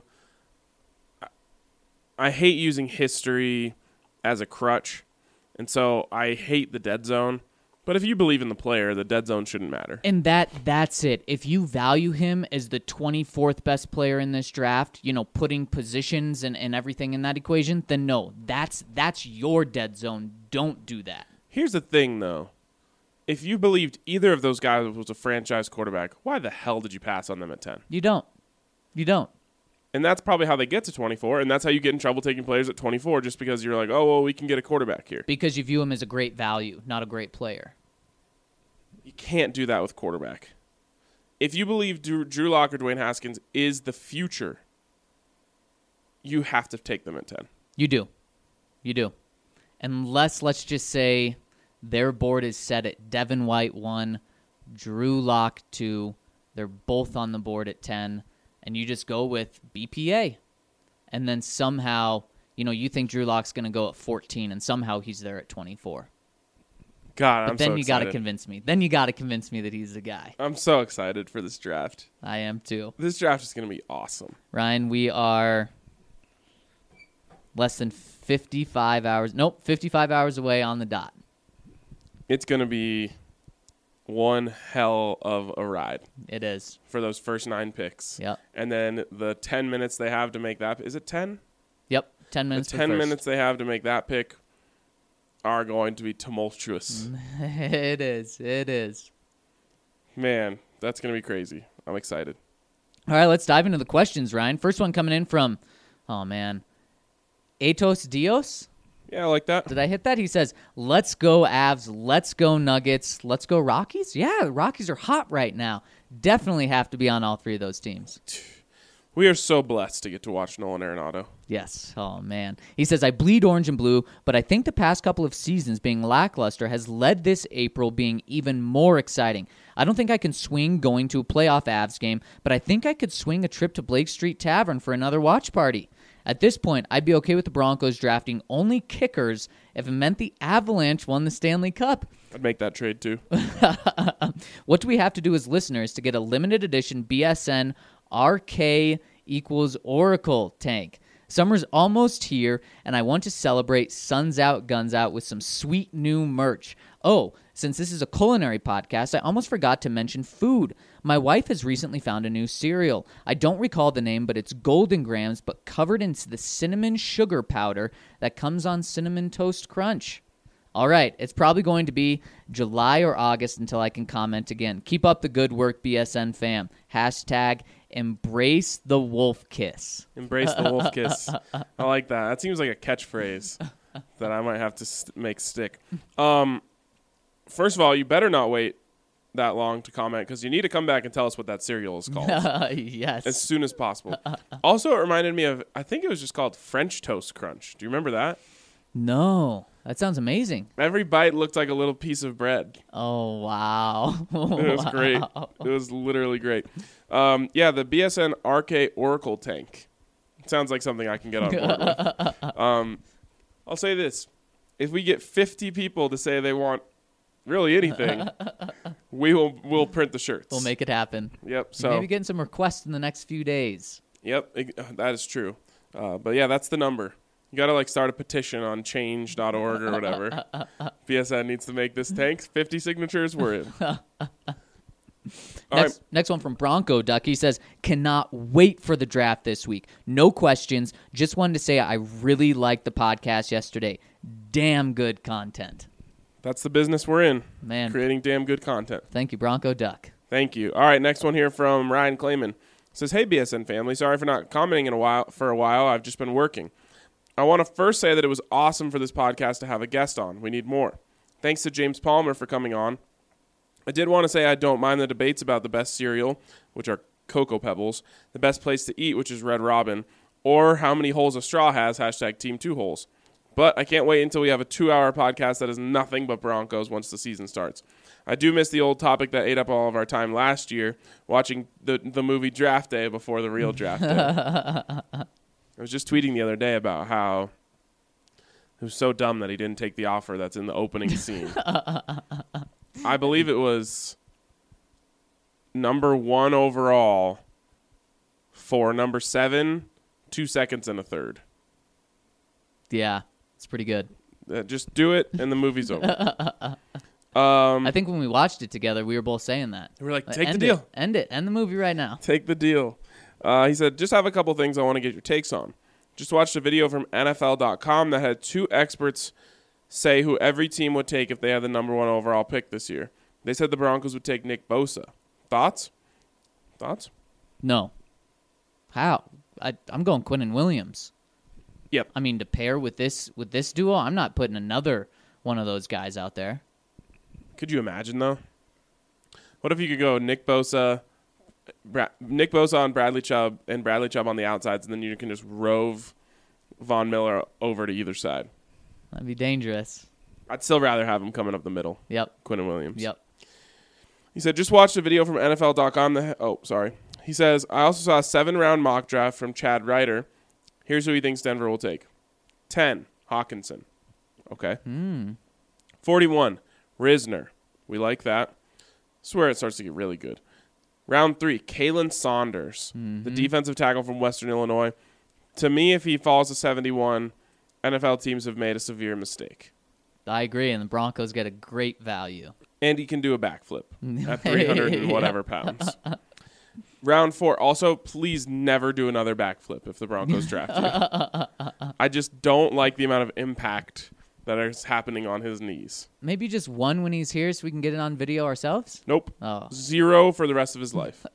I hate using history as a crutch, and so I hate the dead zone. But if you believe in the player, the dead zone shouldn't matter. And that that's it. If you value him as the twenty-fourth best player in this draft, you know, putting positions and, and everything in that equation, then no, that's that's your dead zone. Don't do that. Here's the thing, though. If you believed either of those guys was a franchise quarterback, why the hell did you pass on them at ten? You don't. You don't. And that's probably how they get to twenty-four, and that's how you get in trouble taking players at twenty-four, just because you're like, oh, well, we can get a quarterback here. Because you view him as a great value, not a great player. You can't do that with quarterback. If you believe Drew, Drew Lock or Dwayne Haskins is the future, you have to take them at ten. You do. You do. Unless, let's just say, their board is set at Devin White one, Drew Lock two. They're both on the board at ten. And you just go with B P A. And then somehow, you know, you think Drew Lock's going to go at fourteen, and somehow he's there at twenty-four. God, but I'm then so you got to excited. convince me. Then you got to convince me that he's the guy. I'm so excited for this draft. I am too. This draft is going to be awesome. Ryan, we are less than fifty-five hours. Nope, fifty-five hours away on the dot. It's going to be one hell of a ride. It is. For those first nine picks. Yep. And then the ten minutes they have to make that. Is it ten? Yep, ten minutes The for ten first. minutes they have to make that pick are going to be tumultuous. It is. It is. Man, that's going to be crazy. I'm excited. All right, let's dive into the questions, Ryan. First one coming in from, oh, man, Atos Dios? Yeah, I like that. Did I hit that? He says, let's go Avs, let's go Nuggets, let's go Rockies. Yeah, the Rockies are hot right now. Definitely have to be on all three of those teams. We are so blessed to get to watch Nolan Arenado. Yes. Oh, man. He says, I bleed orange and blue, but I think the past couple of seasons being lackluster has led this April being even more exciting. I don't think I can swing going to a playoff Avs game, but I think I could swing a trip to Blake Street Tavern for another watch party. At this point, I'd be okay with the Broncos drafting only kickers if it meant the Avalanche won the Stanley Cup. I'd make that trade too. What do we have to do as listeners to get a limited edition B S N R K equals Oracle tank? Summer's almost here, and I want to celebrate Suns Out, Guns Out with some sweet new merch. Oh, since this is a culinary podcast, I almost forgot to mention food. My wife has recently found a new cereal. I don't recall the name, but it's Golden Grams, but covered in the cinnamon sugar powder that comes on Cinnamon Toast Crunch. All right, it's probably going to be July or August until I can comment again. Keep up the good work, B S N fam. Hashtag embrace the wolf kiss. Embrace the wolf kiss. I like that. That seems like a catchphrase that I might have to st- make stick. Um, first of all, you better not wait that long to comment because you need to come back and tell us what that cereal is called Yes. as soon as possible. Also, it reminded me of, I think it was just called French Toast Crunch. Do you remember that? No. That sounds amazing. Every bite looked like a little piece of bread. Oh, wow. It was great. It was literally great. Um, yeah, the B S N R K Oracle tank. Sounds like something I can get on board with. Um, I'll say this. If we get fifty people to say they want really anything, we will we'll print the shirts. We'll make it happen. Yep. So Maybe getting some requests in the next few days. Yep, it, that is true. Uh, but yeah, that's the number. You got to like start a petition on change dot org or whatever. B S N needs to make this tank. fifty signatures, we're in. All Next, right. next one from Bronco Duck. He says, cannot wait for the draft this week. No questions. Just wanted to say I really liked the podcast yesterday. Damn good content. That's the business we're in. Man. Creating damn good content. Thank you, Bronco Duck. Thank you. All right, next one here from Ryan Clayman. Says, hey, B S N family. Sorry for not commenting in a while for a while. I've just been working. I want to first say that it was awesome for this podcast to have a guest on. We need more. Thanks to James Palmer for coming on. I did want to say I don't mind the debates about the best cereal, which are Cocoa Pebbles, the best place to eat, which is Red Robin, or how many holes a straw has, hashtag Team Two Holes. But I can't wait until we have a two-hour podcast that is nothing but Broncos once the season starts. I do miss the old topic that ate up all of our time last year, watching the the movie Draft Day before the real Draft Day. I was just tweeting the other day about how it was so dumb that he didn't take the offer that's in the opening scene. I believe it was number one overall for number seven, two seconds and a third. Yeah, it's pretty good. Uh, just do it, and the movie's over. Um, I think when we watched it together, we were both saying that. we're like, Like, take the end deal. It, end it. End the movie right now. Take the deal. Uh, he said, just have a couple things I want to get your takes on. Just watched a video from N F L dot com that had two experts say who every team would take if they had the number one overall pick this year. They said the Broncos would take Nick Bosa. Thoughts? Thoughts? No. How? I, I'm going Quinnen Williams. Yep. I mean, to pair with this with this duo, I'm not putting another one of those guys out there. Could you imagine, though? What if you could go Nick Bosa, Bra- Nick Bosa on Bradley Chubb, and Bradley Chubb on the outsides, and then you can just rove Von Miller over to either side? That'd be dangerous. I'd still rather have him coming up the middle. Yep. Quinnen Williams. Yep. He said, just watched a video from N F L dot com. That, oh, sorry. He says, I also saw a seven-round mock draft from Chad Ryder. Here's who he thinks Denver will take. ten, Hawkinson. Okay. Hmm. forty-one, Risner. We like that. Swear it starts to get really good. Round three, Kalen Saunders, Mm-hmm. the defensive tackle from Western Illinois. To me, if he falls to seventy-one, N F L teams have made a severe mistake. I agree, and the Broncos get a great value. And he can do a backflip at three hundred and Yeah. whatever pounds. Round four. Also, please never do another backflip if the Broncos draft you. I just don't like the amount of impact that is happening on his knees. Maybe just one when he's here so we can get it on video ourselves? Nope. Oh. Zero for the rest of his life.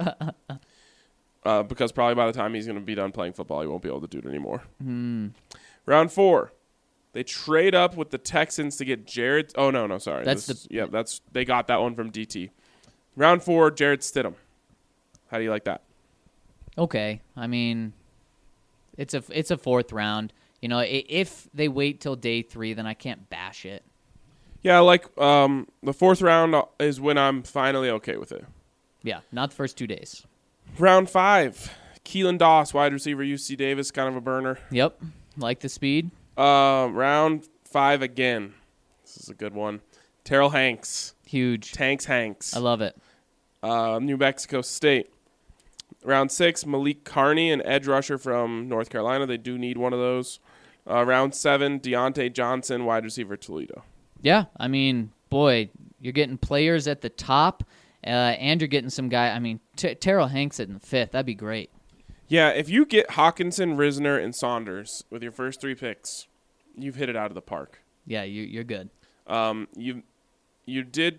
uh, because probably by the time he's going to be done playing football, he won't be able to do it anymore. Hmm. Round four. They trade up with the Texans to get Jared. Oh, no, no, sorry. That's This- the- Yeah, that's they got that one from D T. Round four, Jared Stidham. How do you like that? Okay. I mean, it's a it's a fourth round. You know, i- if they wait till day three, then I can't bash it. Yeah, I like um, the fourth round is when I'm finally okay with it. Yeah, not the first two days. Round five, Keelan Doss, wide receiver, U C Davis, kind of a burner. Yep. Like the speed. Uh, round five again. This is a good one. Terrell Hanks, Huge. Tanks Hanks, I love it. uh, New Mexico State. Round six, Malik Carney, an edge rusher from North Carolina. They do need one of those. Uh, round seven, Deontay Johnson, wide receiver, Toledo. Yeah, I mean, boy, you're getting players at the top, uh, and you're getting some guy. I mean, T- Terrell Hanks in the fifth. That'd be great. Yeah, if you get Hawkinson, Risner, and Saunders with your first three picks, you've hit it out of the park. Yeah, you, you're good. Um, you you did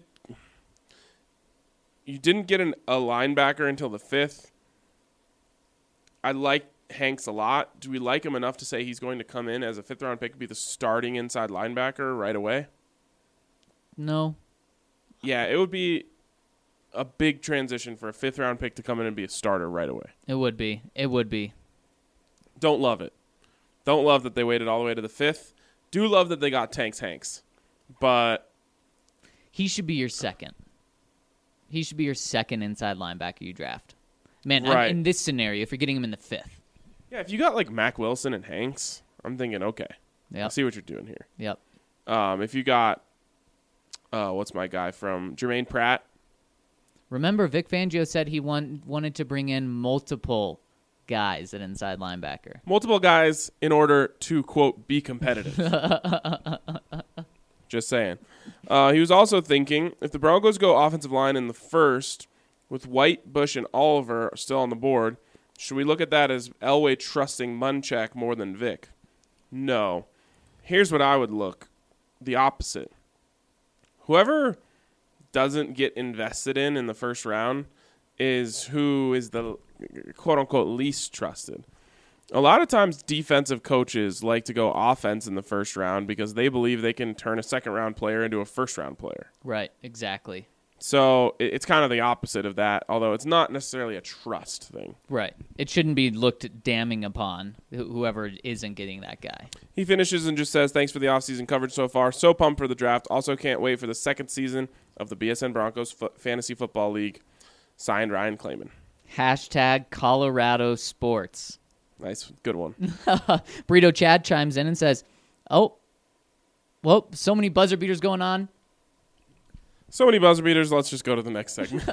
you didn't get an, a linebacker until the fifth. I like Hanks a lot. Do we like him enough to say he's going to come in as a fifth round pick and be the starting inside linebacker right away? No. Yeah, it would be a big transition for a fifth round pick to come in and be a starter right away. It would be. It would be. Don't love it. Don't love that they waited all the way to the fifth. Do love that they got Tanks Hanks, but He should be your second. He should be your second inside linebacker you draft. Man, I'm- Right. in this scenario, if you're getting him in the fifth. yeah, if you got like Mac Wilson and Hanks, I'm thinking, okay, I Yep. see what you're doing here. Yep. Um, if you got, uh, what's my guy from Jermaine Pratt? Remember, Vic Fangio said he want, wanted to bring in multiple guys at inside linebacker. Multiple guys in order to, quote, be competitive. Just saying. Uh, he was also thinking, if the Broncos go offensive line in the first, with White, Bush, and Oliver still on the board, should we look at that as Elway trusting Munchak more than Vic? No. Here's what I would look. The opposite. Whoever doesn't get invested in in the first round is who is the quote-unquote least trusted. A lot of times defensive coaches like to go offense in the first round because they believe they can turn a second-round player into a first-round player. Right, exactly. So it- it's kind of the opposite of that, although it's not necessarily a trust thing. Right. It shouldn't be looked damning upon, wh- whoever isn't getting that guy. He finishes and just says, thanks for the offseason coverage so far. So pumped for the draft. Also can't wait for the second season of the B S N Broncos F- Fantasy Football League. Signed, Ryan Clayman. Hashtag Colorado Sports. Nice. Good one. Burrito Chad chimes in and says, oh, well, so many buzzer beaters going on. So many buzzer beaters. Let's just go to the next segment.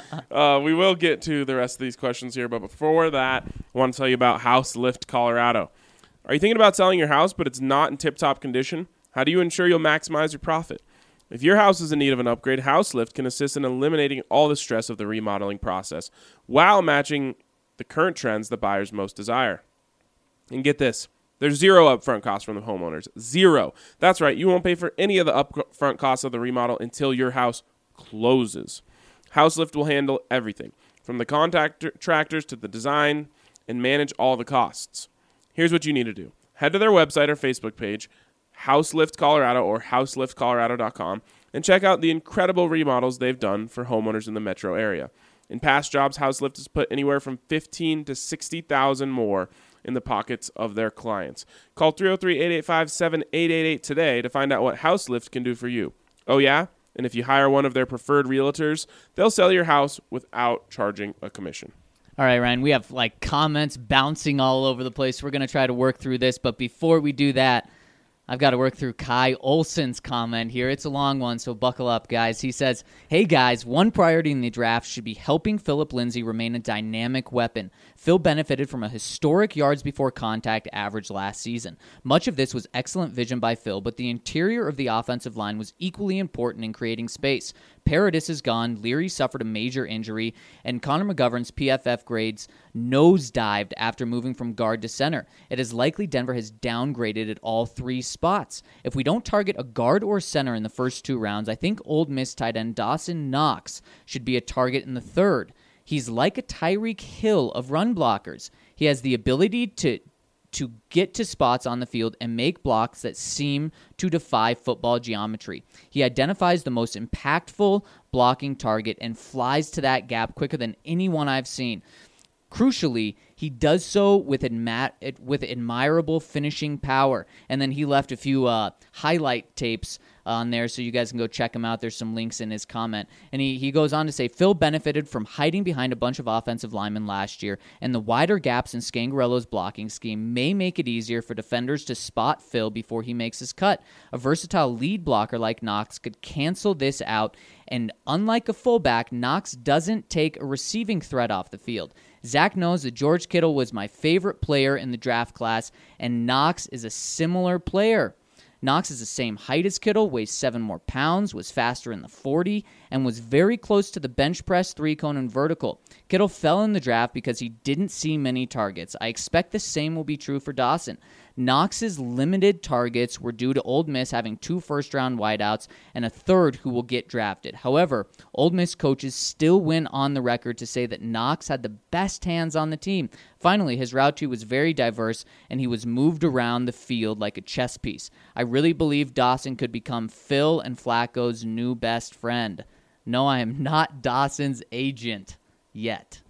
uh, we will get to the rest of these questions here, but before that, I want to tell you about House Lift Colorado. Are you thinking about selling your house, but it's not in tip-top condition? How do you ensure you'll maximize your profit? If your house is in need of an upgrade, House Lift can assist in eliminating all the stress of the remodeling process while matching the current trends that buyers most desire. And get this. There's zero upfront costs from the homeowners. Zero. That's right. You won't pay for any of the upfront costs of the remodel until your house closes. House Lift will handle everything, from the contractors to the design, and manage all the costs. Here's what you need to do. Head to their website or Facebook page, House Lift Colorado or house lift colorado dot com, and check out the incredible remodels they've done for homeowners in the metro area. In past jobs, House Lift has put anywhere from fifteen thousand to sixty thousand more in the pockets of their clients. Call three oh three, eight eight five, seven eight eight eight today to find out what House Lift can do for you. Oh yeah? And if you hire one of their preferred realtors, they'll sell your house without charging a commission. All right, Ryan, we have like comments bouncing all over the place. We're going to try to work through this, but before we do that, I've got to work through Kai Olson's comment here. It's a long one, so buckle up, guys. He says, hey, guys, one priority in the draft should be helping Phillip Lindsay remain a dynamic weapon. Phil benefited from a historic yards before contact average last season. Much of this was excellent vision by Phil, but the interior of the offensive line was equally important in creating space. Paradis is gone, Leary suffered a major injury, and Connor McGovern's P F F grades nosedived after moving from guard to center. It is likely Denver has downgraded at all three spots. If we don't target a guard or center in the first two rounds, I think Ole Miss tight end Dawson Knox should be a target in the third. He's like a Tyreek Hill of run blockers. He has the ability to to get to spots on the field and make blocks that seem to defy football geometry. He identifies the most impactful blocking target and flies to that gap quicker than anyone I've seen. Crucially, he does so with adma- with admirable finishing power. And then he left a few uh, highlight tapes on there so you guys can go check him out. There's some links in his comment. And he, he goes on to say, Phil benefited from hiding behind a bunch of offensive linemen last year, and the wider gaps in Scangarello's blocking scheme may make it easier for defenders to spot Phil before he makes his cut. A versatile lead blocker like Knox could cancel this out, and unlike a fullback, Knox doesn't take a receiving threat off the field. Zach knows that George Kittle was my favorite player in the draft class, and Knox is a similar player. Knox is the same height as Kittle, weighs seven more pounds, was faster in the forty, and was very close to the bench press, three-cone, and vertical. Kittle fell in the draft because he didn't see many targets. I expect the same will be true for Dawson. Knox's limited targets were due to Ole Miss having two first-round wideouts and a third who will get drafted. However, Ole Miss coaches still went on the record to say that Knox had the best hands on the team. Finally, his route tree was very diverse, and he was moved around the field like a chess piece. I really believe Dawson could become Phil and Flacco's new best friend. No, I am not Dawson's agent yet.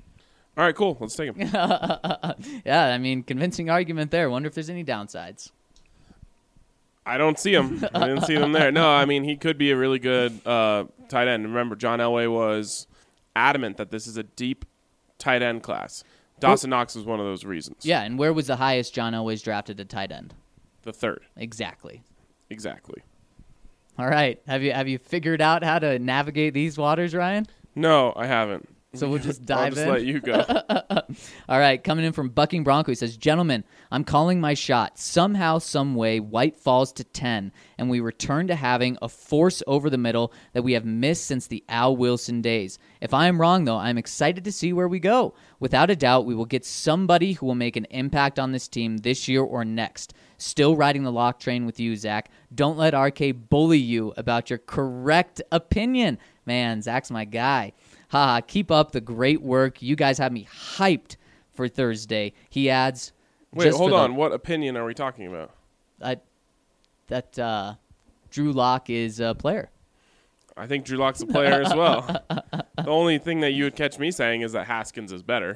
All right, cool. Let's take him. Yeah, I mean, convincing argument there. Wonder if there's any downsides. I don't see him. I didn't see them there. No, I mean, he could be a really good uh, tight end. Remember, John Elway was adamant that this is a deep tight end class. Dawson Knox was one of those reasons. Yeah, and where was the highest John Elway's drafted at tight end? The third. Exactly. Exactly. All right. Have you have you figured out how to navigate these waters, Ryan? No, I haven't. So we'll just dive I'll just in. let you go. All right, coming in from Bucking Bronco, he says, "Gentlemen, I'm calling my shot. Somehow, some way, White falls to ten, and we return to having a force over the middle that we have missed since the Al Wilson days. If I am wrong, though, I'm excited to see where we go. Without a doubt, we will get somebody who will make an impact on this team this year or next. Still riding the lock train with you, Zach. Don't let R K bully you about your correct opinion." Man, Zach's my guy. Haha, keep up the great work. You guys have me hyped for Thursday. He adds... Wait, just hold for the- on. What opinion are we talking about? I, that uh, Drew Lock is a player. I think Drew Lock's a player as well. The only thing that you would catch me saying is that Haskins is better.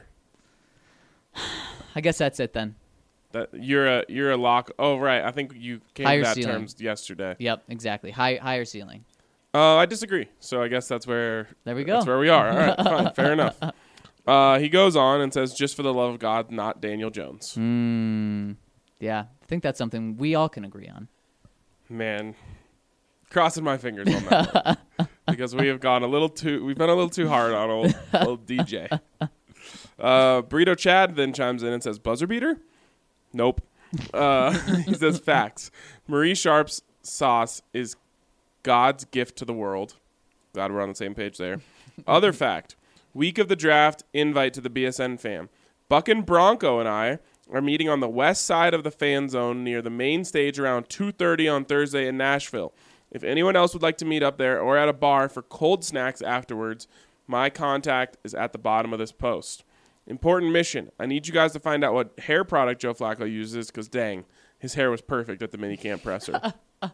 I guess that's it then. That you're a you're a lock. Oh, right. I think you came Higher to that ceiling. terms yesterday. Yep, exactly. High, higher ceiling. Uh, I disagree. So I guess that's where There we go. That's where we are. All right, fine, fair enough. Uh, he goes on and says, "Just for the love of God, not Daniel Jones." Mm, yeah, I think that's something we all can agree on. Man, crossing my fingers on that one. Because we have gone a little too. We've been a little too hard on old, old D J. Uh, Burrito Chad then chimes in and says, "Buzzer beater." Nope. Uh, he says, "Facts. Marie Sharp's sauce is God's gift to the world." Glad we're on the same page there. Other fact. Week of the draft, invite to the B S N fam. Buck and Bronco and I are meeting on the west side of the fan zone near the main stage around two thirty on Thursday in Nashville. If anyone else would like to meet up there or at a bar for cold snacks afterwards, my contact is at the bottom of this post. Important mission. I need you guys to find out what hair product Joe Flacco uses because, dang, his hair was perfect at the minicamp presser.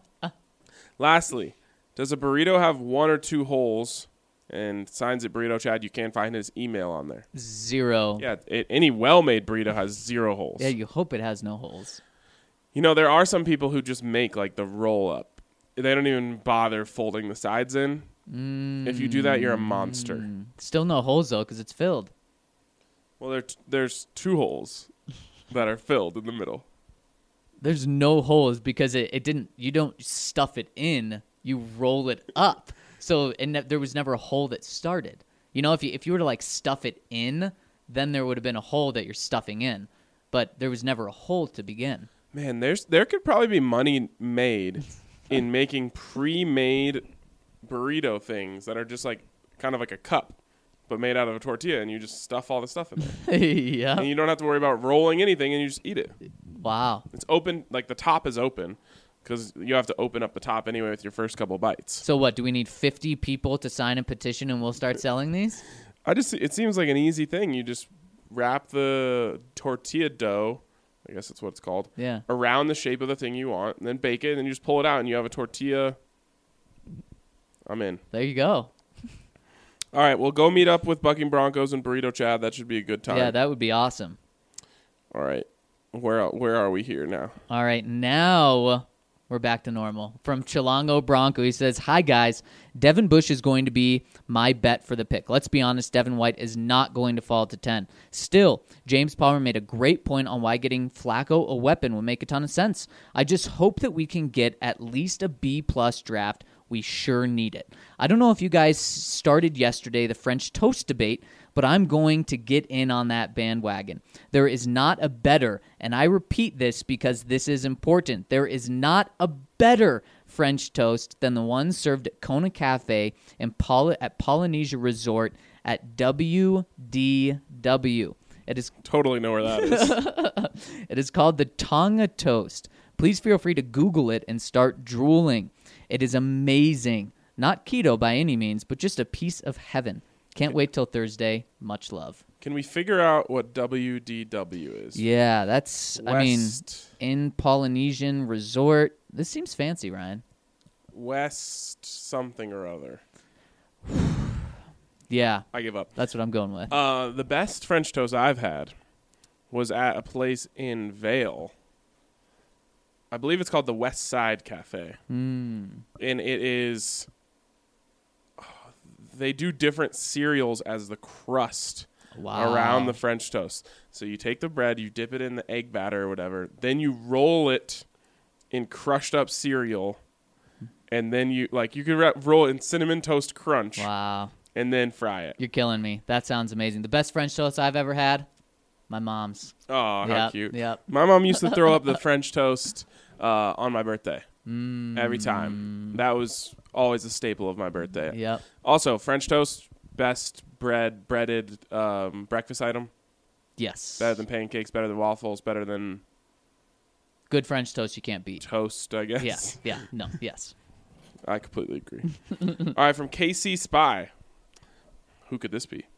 Lastly, does a burrito have one or two holes? And signs it Burrito Chad. You can find his email on there. Zero. Yeah, it, any well-made burrito has zero holes. Yeah, you hope it has no holes. You know, there are some people who just make, like, the roll-up. They don't even bother folding the sides in. Mm. If you do that, you're a monster. Still no holes, though, because it's filled. Well, there t- there's two holes that are filled in the middle. There's no holes because it, it didn't. You don't stuff it in. You roll it up. So and ne- there was never a hole that started. You know, if you if you were to like stuff it in, then there would have been a hole that you're stuffing in. But there was never a hole to begin. Man, there's there could probably be money made in making pre-made burrito things that are just like kind of like a cup, but made out of a tortilla, and you just stuff all the stuff in there. Yeah. And you don't have to worry about rolling anything, and you just eat it. Wow. It's open, like the top is open, because you have to open up the top anyway with your first couple bites. So what, do we need fifty people to sign a petition and we'll start selling these? I just, it seems like an easy thing. You just wrap the tortilla dough, I guess that's what it's called, Yeah. around the shape of the thing you want, and then bake it, and then you just pull it out, and you have a tortilla. I'm in. There you go. All right, well, go meet up with Bucking Broncos and Burrito Chad. That should be a good time. Yeah, that would be awesome. All right. Where where are we here now? All right, now we're back to normal. From Chilongo Bronco, he says, "Hi, guys. Devin Bush is going to be my bet for the pick. Let's be honest, Devin White is not going to fall to ten. Still, James Palmer made a great point on why getting Flacco a weapon would make a ton of sense. I just hope that we can get at least a B-plus draft. We sure need it. I don't know if you guys started yesterday the French toast debate, but I'm going to get in on that bandwagon. There is not a better, and I repeat this because this is important, there is not a better French toast than the one served at Kona Cafe in Poly- at Polynesia Resort at W D W. It is Totally know where that is. It is called the Tonga Toast. Please feel free to Google it and start drooling. It is amazing. Not keto by any means, but just a piece of heaven. Can't wait till Thursday. Much love." Can we figure out what W D W is? Yeah, that's, I mean, West- in Polynesian Resort. This seems fancy, Ryan. West something or other. Yeah, I give up. that's what I'm going with. Uh, the best French toast I've had was at a place in Vail. I believe it's called the West Side Cafe. Mm. And it is, oh, they do different cereals as the crust Wow. around the French toast. So you take the bread, you dip it in the egg batter or whatever, then you roll it in crushed up cereal, and then you, like, you can ra- roll it in Cinnamon Toast Crunch. Wow. And then fry it. You're killing me. That sounds amazing. The best French toast I've ever had, my mom's. Oh, how Yep, cute. Yep. My mom used to throw up the French toast uh, on my birthday Mm. every time. That was always a staple of my birthday. Yep. Also, French toast, best bread, breaded um, breakfast item. Yes. Better than pancakes, better than waffles, better than Good French toast you can't beat. toast, I guess. Yeah. Yeah. No. Yes. I completely agree. All right, from K C Spy. Who could this be?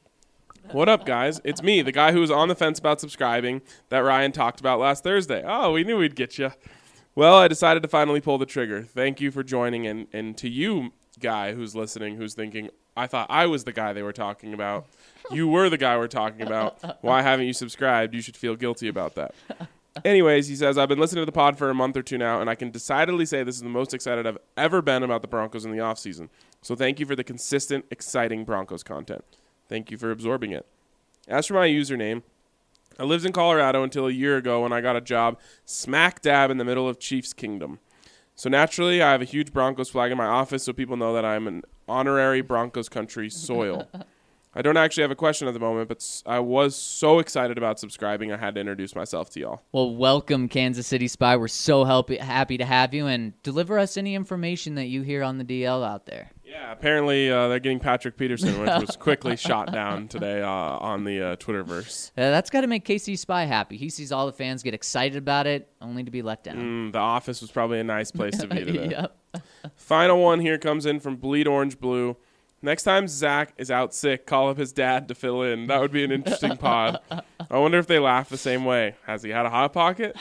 What up, guys? It's me, the guy who was on the fence about subscribing that Ryan talked about last Thursday. Oh, we knew we'd get you. Well, I decided to finally pull the trigger. Thank you for joining, and, and to you, guy who's listening, who's thinking, I thought I was the guy they were talking about. You were the guy we're talking about. Why haven't you subscribed? You should feel guilty about that. Anyways, he says, I've been listening to the pod for a month or two now, and I can decidedly say this is the most excited I've ever been about the Broncos in the offseason. So thank you for the consistent, exciting Broncos content. Thank you for absorbing it. As for my username, I lived in Colorado until a year ago when I got a job smack dab in the middle of Chiefs Kingdom. So naturally, I have a huge Broncos flag in my office so people know that I'm an honorary Broncos country soil. I don't actually have a question at the moment, but I was so excited about subscribing, I had to introduce myself to y'all. Well, welcome, Kansas City Spy. We're so help- happy to have you, and deliver us any information that you hear on the D L out there. Yeah, apparently uh, they're getting Patrick Peterson, which was quickly shot down today uh, on the uh, Twitterverse. Uh, that's got to make K C Spy happy. He sees all the fans get excited about it, only to be let down. Mm, the office was probably a nice place to be today. Yep. Final one here comes in from Bleed Orange Blue. Next time Zach is out sick, call up his dad to fill in. That would be an interesting pod. I wonder if they laugh the same way. Has he had a Hot Pocket?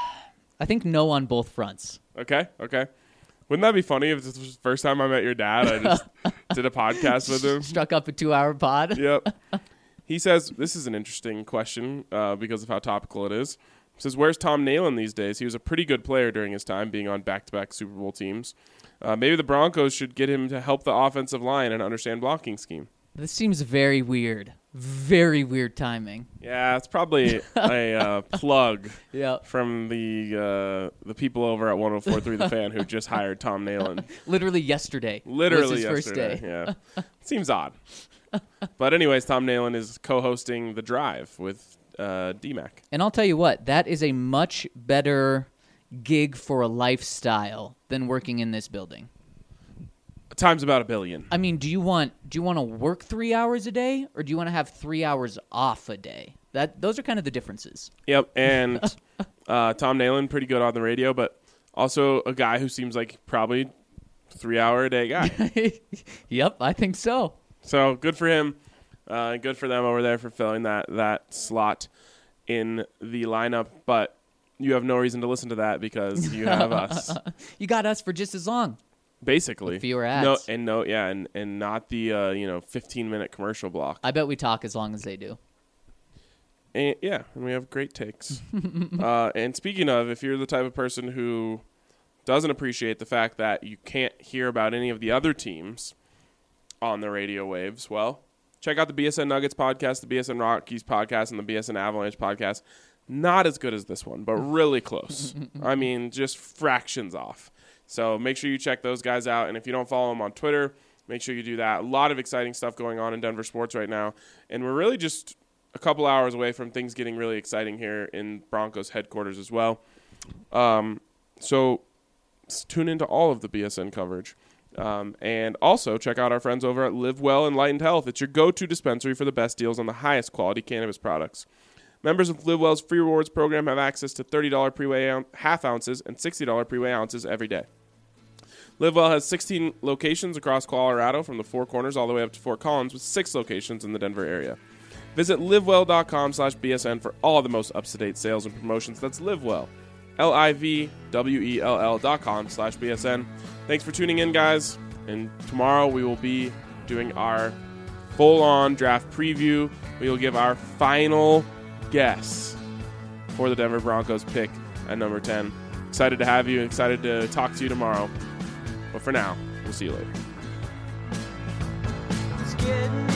I think no on both fronts. Okay, okay. Wouldn't that be funny if this was the first time I met your dad? I just did a podcast with him. Struck up a two-hour pod. Yep. He says, this is an interesting question uh, because of how topical it is. He says, where's Tom Nalen these days? He was a pretty good player during his time being on back-to-back Super Bowl teams. Uh, maybe the Broncos should get him to help the offensive line and understand blocking scheme. This seems very weird. Very weird timing. Yeah, it's probably a uh, plug Yep. from the uh, the people over at one oh four point three The Fan who just hired Tom Nalen. Literally yesterday. Literally was his yesterday. first day. Yeah, seems odd. But anyways, Tom Nalen is co-hosting The Drive with uh, D-Mac. And I'll tell you what, that is a much better gig for a lifestyle than working in this building. Times about a billion. I mean, do you want do you want to work three hours a day, or do you want to have three hours off a day? That those are kind of the differences. Yep, and uh, Tom Nalen, pretty good on the radio, but also a guy who seems like probably three hour a day guy. Yep, I think so. So good for him. Uh, good for them over there for filling that that slot in the lineup. But you have no reason to listen to that because you have us. You got us for just as long. Basically, With fewer ads. No, and no, yeah, and, and not the uh, you know fifteen minute commercial block. I bet we talk as long as they do. And, yeah, and we have great takes. uh, and speaking of, if you're the type of person who doesn't appreciate the fact that you can't hear about any of the other teams on the radio waves, well, check out the B S N Nuggets podcast, the B S N Rockies podcast, and the B S N Avalanche podcast. Not as good as this one, but really close. I mean, just fractions off. So make sure you check those guys out. And if you don't follow them on Twitter, make sure you do that. A lot of exciting stuff going on in Denver sports right now. And we're really just a couple hours away from things getting really exciting here in Broncos headquarters as well. Um, so tune into all of the B S N coverage. Um, and also check out our friends over at Live Well Enlightened Health. It's your go-to dispensary for the best deals on the highest quality cannabis products. Members of Live Well's Free Rewards program have access to thirty dollars pre-weigh ounce, half ounces and sixty dollars pre-weigh ounces every day. Live Well has sixteen locations across Colorado from the Four Corners all the way up to Fort Collins with six locations in the Denver area. Visit livewell.com slash BSN for all the most up-to-date sales and promotions. That's LiveWell, L I V W E L L dot com slash B S N. Thanks for tuning in, guys. And tomorrow we will be doing our full-on draft preview. We will give our final guess for the Denver Broncos pick at number ten. Excited to have you. Excited to talk to you tomorrow. But for now, we'll see you later. It's getting